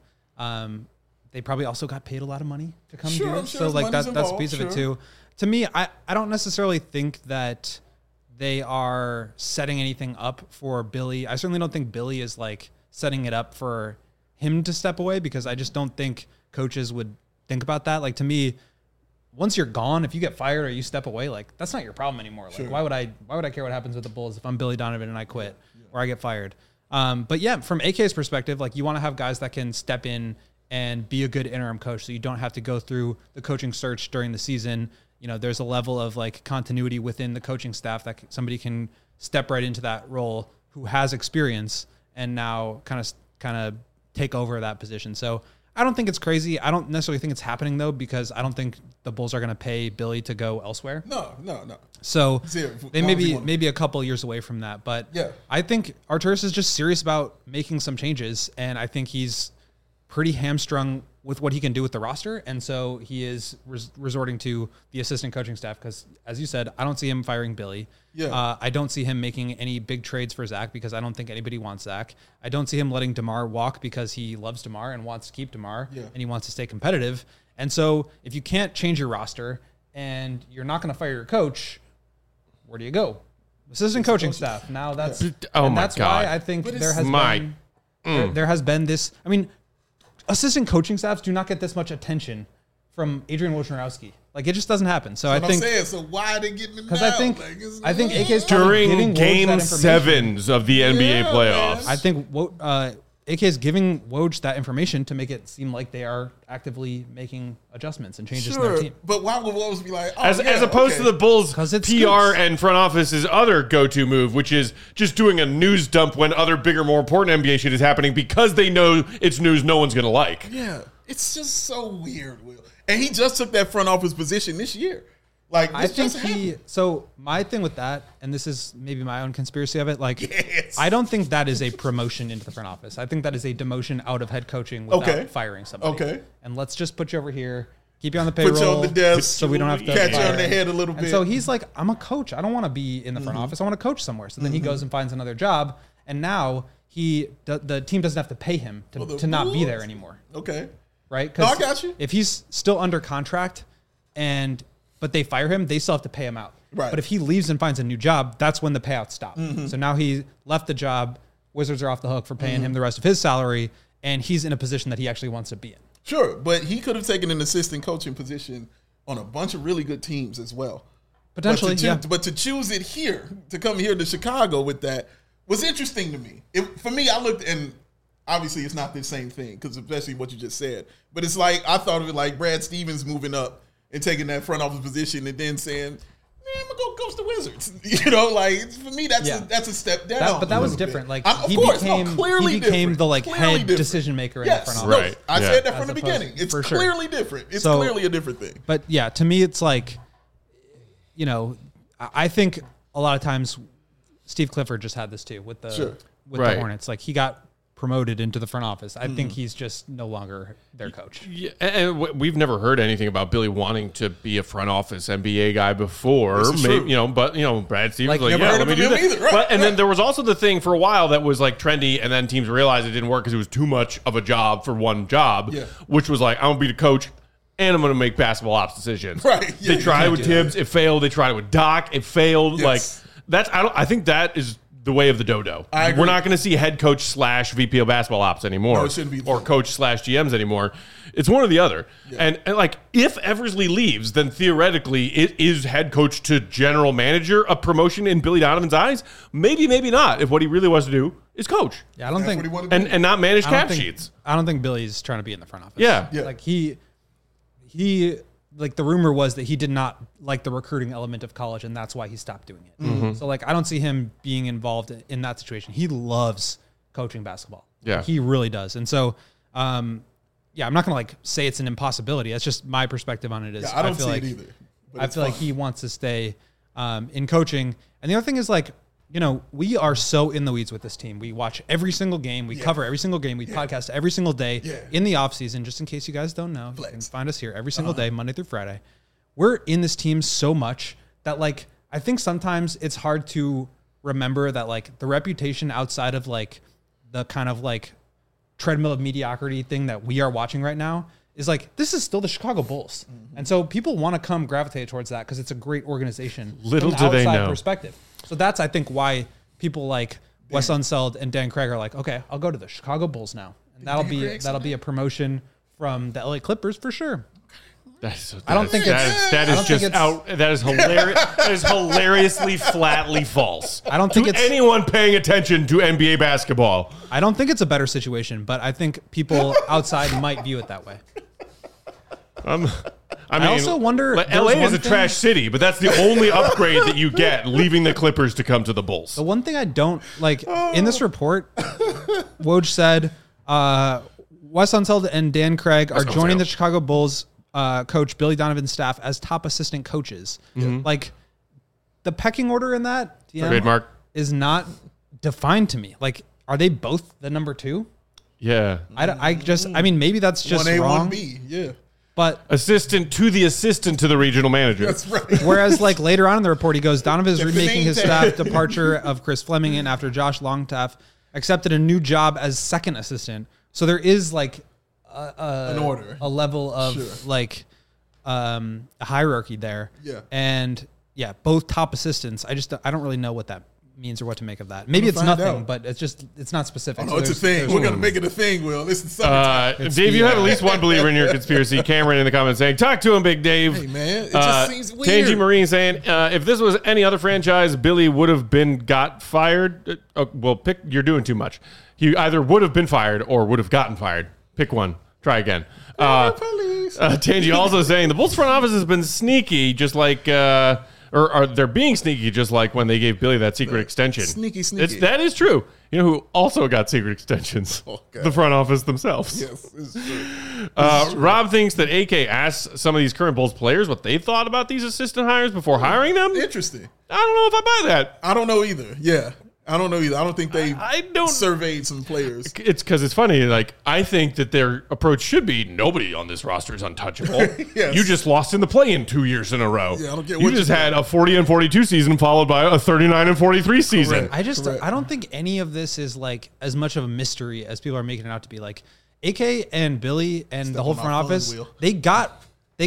They probably also got paid a lot of money to come do it. So like that's a piece of it too. To me, I don't necessarily think that they are setting anything up for Billy. I certainly don't think Billy is like setting it up for him to step away, because I just don't think coaches would think about that. Like, to me, once you're gone, if you get fired or you step away, like, that's not your problem anymore. Like, why would I care what happens with the Bulls if I'm Billy Donovan and I quit or I get fired? But yeah, from AK's perspective, like, you want to have guys that can step in and be a good interim coach, so you don't have to go through the coaching search during the season. You know, there's a level of like continuity within the coaching staff that somebody can step right into that role who has experience and now kind of take over that position. So I don't think it's crazy. I don't necessarily think it's happening, though, because I don't think the Bulls are going to pay Billy to go elsewhere. No. So they may be maybe a couple years away from that. But yeah, I think Arturas is just serious about making some changes, and I think he's pretty hamstrung with what he can do with the roster. And so he is resorting to the assistant coaching staff because, as you said, I don't see him firing Billy. Yeah. I don't see him making any big trades for Zach because I don't think anybody wants Zach. I don't see him letting DeMar walk because he loves DeMar and wants to keep DeMar and he wants to stay competitive. And so if you can't change your roster and you're not going to fire your coach, where do you go? assistant coaching staff. Now that's Oh and my that's God. why I think But there has there has been this. I mean, assistant coaching staffs do not get this much attention from Adrian Wojnarowski. Like, it just doesn't happen. So I think I'm saying, so why are they getting it now? because I think AK's During giving Woj Game that information. 7s of the NBA Yeah, playoffs. man. I think AK is giving Woj that information to make it seem like they are actively making adjustments and changes in their Sure, team. but why would Woj be like, oh, As opposed to the Bulls' 'Cause it PR scoops. and front office's other go-to move, which is just doing a news dump when other bigger, more important NBA shit is happening because they know it's news no one's going to like. Yeah, it's just so weird, Will. And he just took that front office position this year. Like, I this think just happened. so my thing with that, and this is maybe my own conspiracy of it, like, Yes. I don't think that is a promotion into the front office. I think that is a demotion out of head coaching without Okay. firing somebody. Okay. And let's just put you over here, keep you on the payroll. Put you on the desk, so we don't have to catch you fire on the him. head a little And bit. so he's like, I'm a coach. I don't want to be in the front office. I want to coach somewhere. So then he goes and finds another job. And now the team doesn't have to pay him to not be there anymore. Okay. Right? No, I got you. If he's still under contract but they fire him, they still have to pay him out. Right. But if he leaves and finds a new job, that's when the payouts stop. So now he left the job. Wizards are off the hook for paying him the rest of his salary, and he's in a position that he actually wants to be in. Sure, but he could have taken an assistant coaching position on a bunch of really good teams as well. Potentially, But to choose it here, to come here to Chicago with that, was interesting to me. For me, I looked, and obviously it's not the same thing, because especially what you just said. But it's like, I thought of it like Brad Stevens moving up and taking that front office position and then saying, I'm going to go coach the Wizards. You know, like, for me, that's a step down. But that a was little different. bit. Like, Of he course, became, clearly he became different. the like Clearly head different. decision maker in Yes, the front no, office. Right. I Yeah. said that from As the opposed- beginning. It's for sure. clearly different. It's So- clearly a different thing. But yeah, to me, it's like, you know, I think a lot of times Steve Clifford just had this too with the Right. the Hornets. Like, he got promoted into the front office. I think he's just no longer their coach. Yeah, and we've never heard anything about Billy wanting to be a front office NBA guy before. This is true. But Brad Stevens Like, like, never yeah, heard let me of do him that. either. Right, But, and then right. there was also the thing for a while that was like trendy, and then teams realized it didn't work because it was too much of a job for one job, Yeah. which was like, I'm going to be the coach and I'm going to make basketball ops decisions. Right, yeah, They you tried it can't with do that. Tibbs, it failed. They tried it with Doc, it failed. Yes. Like, I think that is the way of the dodo. I agree. We're not going to see head coach / VP of basketball ops anymore. No, it shouldn't be. Or coach / GMs anymore. It's one or the other. And like, if Eversley leaves, then theoretically it is head coach to general manager, a promotion in Billy Donovan's eyes. Maybe, maybe not. If what he really wants to do is coach Yeah, I don't That's think what he wanted to do. and not manage I don't cap think- sheets. I don't think Billy's trying to be in the front office. Yeah. Yeah. Like, he like, the rumor was that he did not like the recruiting element of college, and that's why he stopped doing it. Mm-hmm. So, like, I don't see him being involved in that situation. He loves coaching basketball. Yeah. He really does. And so, I'm not going to like say it's an impossibility. That's just my perspective on it. Is Yeah, I don't feel see like, it either. But I it's feel like fun. he wants to stay in coaching. And the other thing is, like, you know, we are so in the weeds with this team. We watch every single game. We cover every single game. We podcast every single day in the off season. Just in case you guys don't know, you can find us here every single day, Monday through Friday. We're in this team so much that, like, I think sometimes it's hard to remember that, like, the reputation outside of, like, the kind of, like, treadmill of mediocrity thing that we are watching right now is like, this is still the Chicago Bulls. And so people want to come gravitate towards that because it's a great organization. Little from the do they outside know. perspective. So that's, I think, why people like Wes Unseld and Dan Craig are like, okay, I'll go to the Chicago Bulls now. And that'll be a promotion from the LA Clippers for sure. I don't think that is just out. That is hilarious. That is hilariously flatly false. I don't think to it's anyone paying attention to NBA basketball. I don't think it's a better situation, but I think people outside might view it that way. I mean, also wonder- like, there LA was is one a thing- trash city, but that's the only upgrade that you get leaving the Clippers to come to the Bulls. The one thing I don't like in this report, Woj said, Wes Unseld and Dan Craig are joining the Chicago Bulls coach Billy Donovan's staff as top assistant coaches. Like, the pecking order in that Trademark. is not defined to me. Like, are they both the number two? Yeah. I mean, maybe that's just 1A, wrong. 1B. Yeah. But Assistant to the regional manager. That's right. whereas, like, later on in the report, he goes, Donovan is The remaking his name staff tag. departure of Chris Fleming in after Josh Longstaff accepted a new job as second assistant. So there is, like, An order. a level of Sure. like a hierarchy there. Yeah. And both top assistants. I don't really know what that means or what to make of that. Maybe it's nothing, out. but it's not specific. No, it's a thing. We're gonna make it a thing, Will. This is Dave, you have at least one believer in your conspiracy. Cameron in the comments saying, "Talk to him, Big Dave." Hey man, it just seems weird. Tangy Marine saying, "If this was any other franchise, Billy would have got fired." Pick. You're doing too much. He either would have been fired or would have gotten fired. Pick one. Try again. Tangy also saying the Bulls front office has been sneaky, just like. Or they're being sneaky, just like when they gave Billy that secret extension. Sneaky. That is true. You know who also got secret extensions? The front office themselves. Yes, it's true. Rob thinks that AK asked some of these current Bulls players what they thought about these assistant hires before hiring them. Interesting. I don't know if I buy that. I don't know either. Yeah. I don't know either. I don't think they don't surveyed some players. It's because it's funny. Like, I think that their approach should be nobody on this roster is untouchable. Yes. You just lost in the play-in 2 years in a row. Yeah, I don't get you what just you had a 40-42 season followed by a 39-43 season. Correct. I don't think any of this is like as much of a mystery as people are making it out to be. Like AK and Billy and the whole front office, they got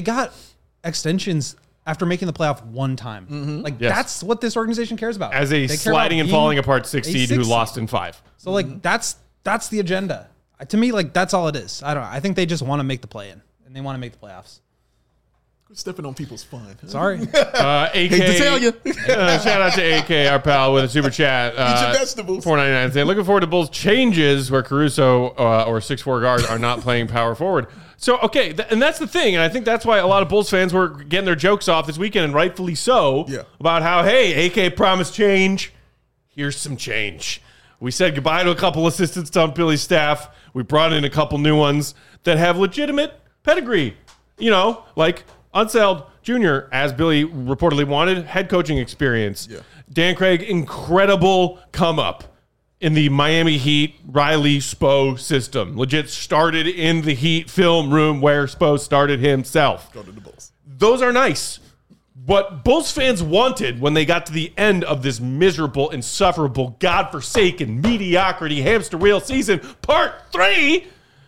extensions after making the playoff one time. Mm-hmm. Like Yes. that's what this organization cares about. As a They care sliding about and being falling apart 6 a seed who 6 lost in 5. So like that's the agenda. To me, like that's all it is. I think they just want to make the play in and they want to make the playoffs. We're stepping on people's fun. Sorry. AK, Hate to tell you. shout out to AK, our pal, with a super chat. Eat your vegetables. $4.99 saying, looking forward to Bulls changes where Caruso or 6'4" guards are not playing power forward. So, okay, and that's the thing, and I think that's why a lot of Bulls fans were getting their jokes off this weekend, and rightfully so, about how, hey, AK promised change. Here's some change. We said goodbye to a couple assistants on Billy's staff. We brought in a couple new ones that have legitimate pedigree. You know, like Unseld Jr., as Billy reportedly wanted, head coaching experience. Yeah. Dan Craig, incredible come-up in the Miami Heat Riley Spo system. Legit started in the Heat film room where Spo started himself. Go to the Bulls. Those are nice. What Bulls fans wanted when they got to the end of this miserable, insufferable, godforsaken mediocrity hamster wheel season, part 3,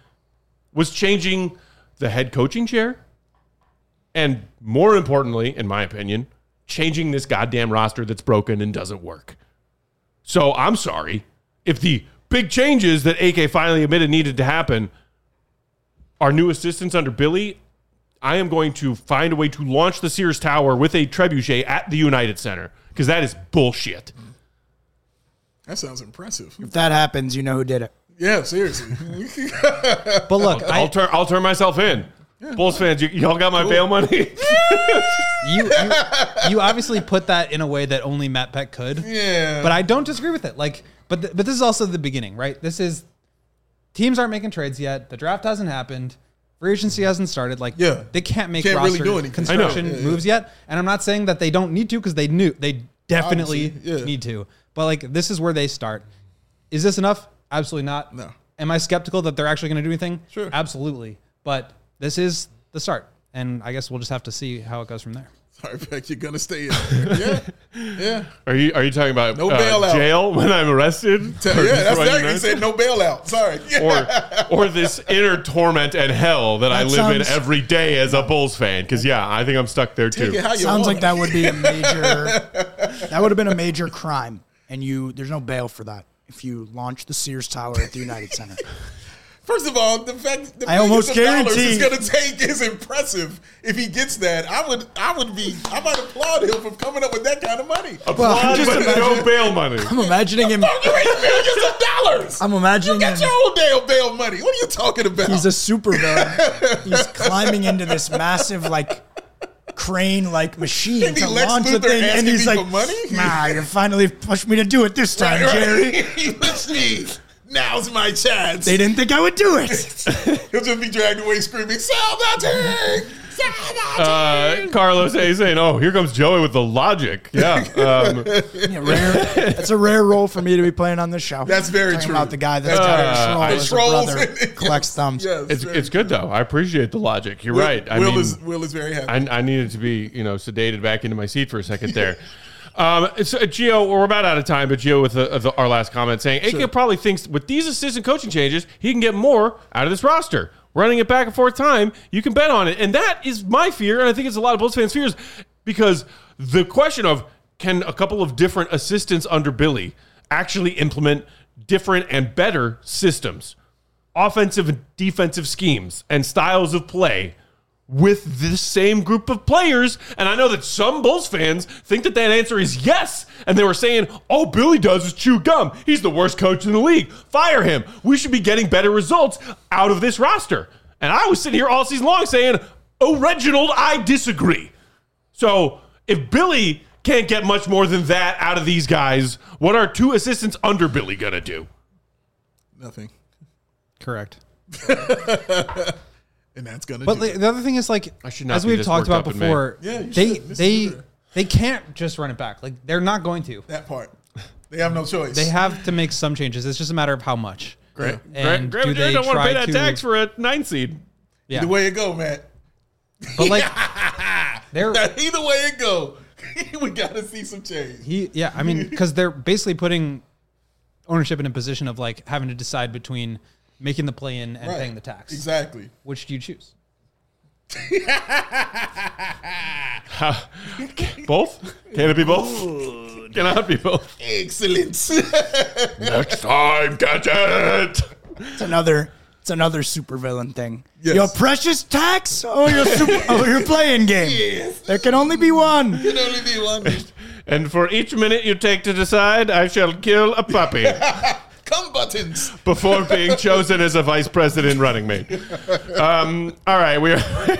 was changing the head coaching chair. And more importantly, in my opinion, changing this goddamn roster that's broken and doesn't work. So I'm sorry. If the big changes that AK finally admitted needed to happen are new assistants under Billy, I am going to find a way to launch the Sears Tower with a trebuchet at the United Center, because that is bullshit. That sounds impressive. If that happens, you know who did it. Yeah, seriously. But look, I'll turn myself in. Bulls fans, y'all got my bail money? you obviously put that in a way that only Matt Peck could. Yeah. But I don't disagree with it. Like, but this is also the beginning, right? This is teams aren't making trades yet. The draft hasn't happened. Free agency hasn't started. Like, they can't make roster really do anything. construction moves yet. And I'm not saying that they don't need to, because they definitely need to. But like, this is where they start. Is this enough? Absolutely not. No. Am I skeptical that they're actually going to do anything? Sure. Absolutely. But this is the start. And I guess we'll just have to see how it goes from there. Sorry, Beck, you're gonna stay in there. Yeah. Are you talking about No bailout. jail when I'm arrested? Yeah, that's exactly. He said no bailout. Sorry. or this inner torment and hell that I live in every day as a Bulls fan. Because I think I'm stuck there too. Sounds like that would be a major. That would have been a major crime, and there's no bail for that if you launch the Sears Tower at the United Center. First of all, the fact that I almost guarantee it's going to take is impressive. If he gets that, I might applaud him for coming up with that kind of money. Applaud, but no bail money. I'm imagining him. You raised millions of dollars. I'm imagining You got him. your own damn bail money. What are you talking about? He's a supervillain. He's climbing into this massive crane machine Maybe to Lex launch the Luthor thing, and asking he's me like, for money? "Nah, you finally pushed me to do it this time, Jerry." You pushed me. Now's my chance. They didn't think I would do it. He'll just be dragged away screaming, "Sell the team! Sell the team!" Carlos A saying, "Oh, here comes Joey with the logic." Yeah, It's a rare role for me to be playing on this show. That's very Talking true. about the guy that's got a The troll as a trolls brother, and- collects thumbs. Yes, it's good though. I appreciate the logic. You're right. Will is very happy. I needed to be sedated back into my seat for a second there. So Gio, we're about out of time, but Gio with our last comment saying, AK probably thinks with these assistant coaching changes, he can get more out of this roster. Running it back and forth time, you can bet on it. And that is my fear, and I think it's a lot of Bulls fans' fears. Because the question of can a couple of different assistants under Billy actually implement different and better systems, offensive and defensive schemes, and styles of play with this same group of players? And I know that some Bulls fans think that answer is yes. And they were saying, all Billy does is chew gum. He's the worst coach in the league. Fire him. We should be getting better results out of this roster. And I was sitting here all season long saying, oh, Reginald, I disagree. So if Billy can't get much more than that out of these guys, what are two assistants under Billy going to do? Nothing. Correct. And that's gonna. But the other thing is, like, I should not as be we've this talked worked about up in May. before, Yeah, you should. This is they can't just run it back. Like, they're not going to. that part. They have no choice. They have to make some changes. It's just a matter of how much. Great. And Graham do they don't want to pay try that tax for a 9 seed. Yeah. Either way it go, Matt. But like, they're Either way it go, we gotta see some change. I mean, because they're basically putting ownership in a position of like having to decide between making the play in and Right. paying the tax. Exactly. Which do you choose? Both? Can it be both? Cannot be both. Excellent. Next time, catch it. It's another supervillain thing. Yes. Your precious tax or your playing game. Yes. There can only be one. Can only be one. And for each minute you take to decide, I shall kill a puppy Come buttons. before being chosen as a vice president running mate. All right, we're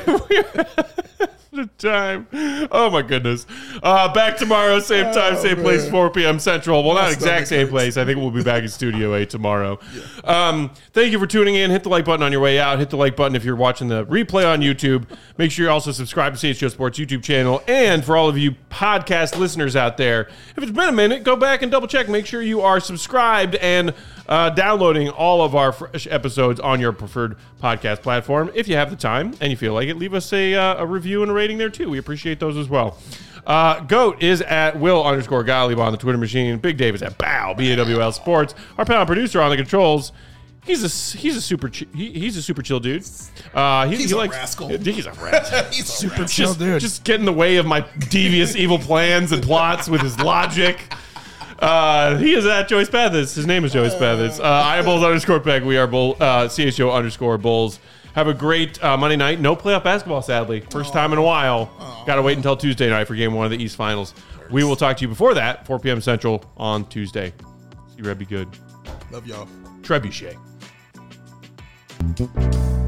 the time. Oh my goodness. Back tomorrow, same time, same place, 4 p.m. Central. Well, not exact same place. I think we'll be back in Studio A tomorrow. Thank you for tuning in. Hit the like button on your way out. Hit the like button if you're watching the replay on YouTube. Make sure you also subscribe to CHGO Sports YouTube channel. And for all of you podcast listeners out there, if it's been a minute, go back and double check. Make sure you are subscribed and downloading all of our fresh episodes on your preferred podcast platform. If you have the time and you feel like it, leave us a review and a rating there too. We appreciate those as well. Goat is at Will_Gottlieb on the Twitter machine. Big Dave is at BAWL Sports. Our panel producer on the controls. He's a super chill dude. He's He a likes, rascal. He's a rat. He's Super super. chill dude. Just get in the way of my devious evil plans and plots with his logic. He is at Joey Spathis. His name is Joey Spathis. I am Bulls_Peg. We are CHGO_Bulls. Have a great Monday night. No playoff basketball, sadly. First time in a while. Got to wait until Tuesday night for game 1 of the East Finals. We will talk to you before that, 4 p.m. Central on Tuesday. See Red be good. Love y'all. Trebuchet.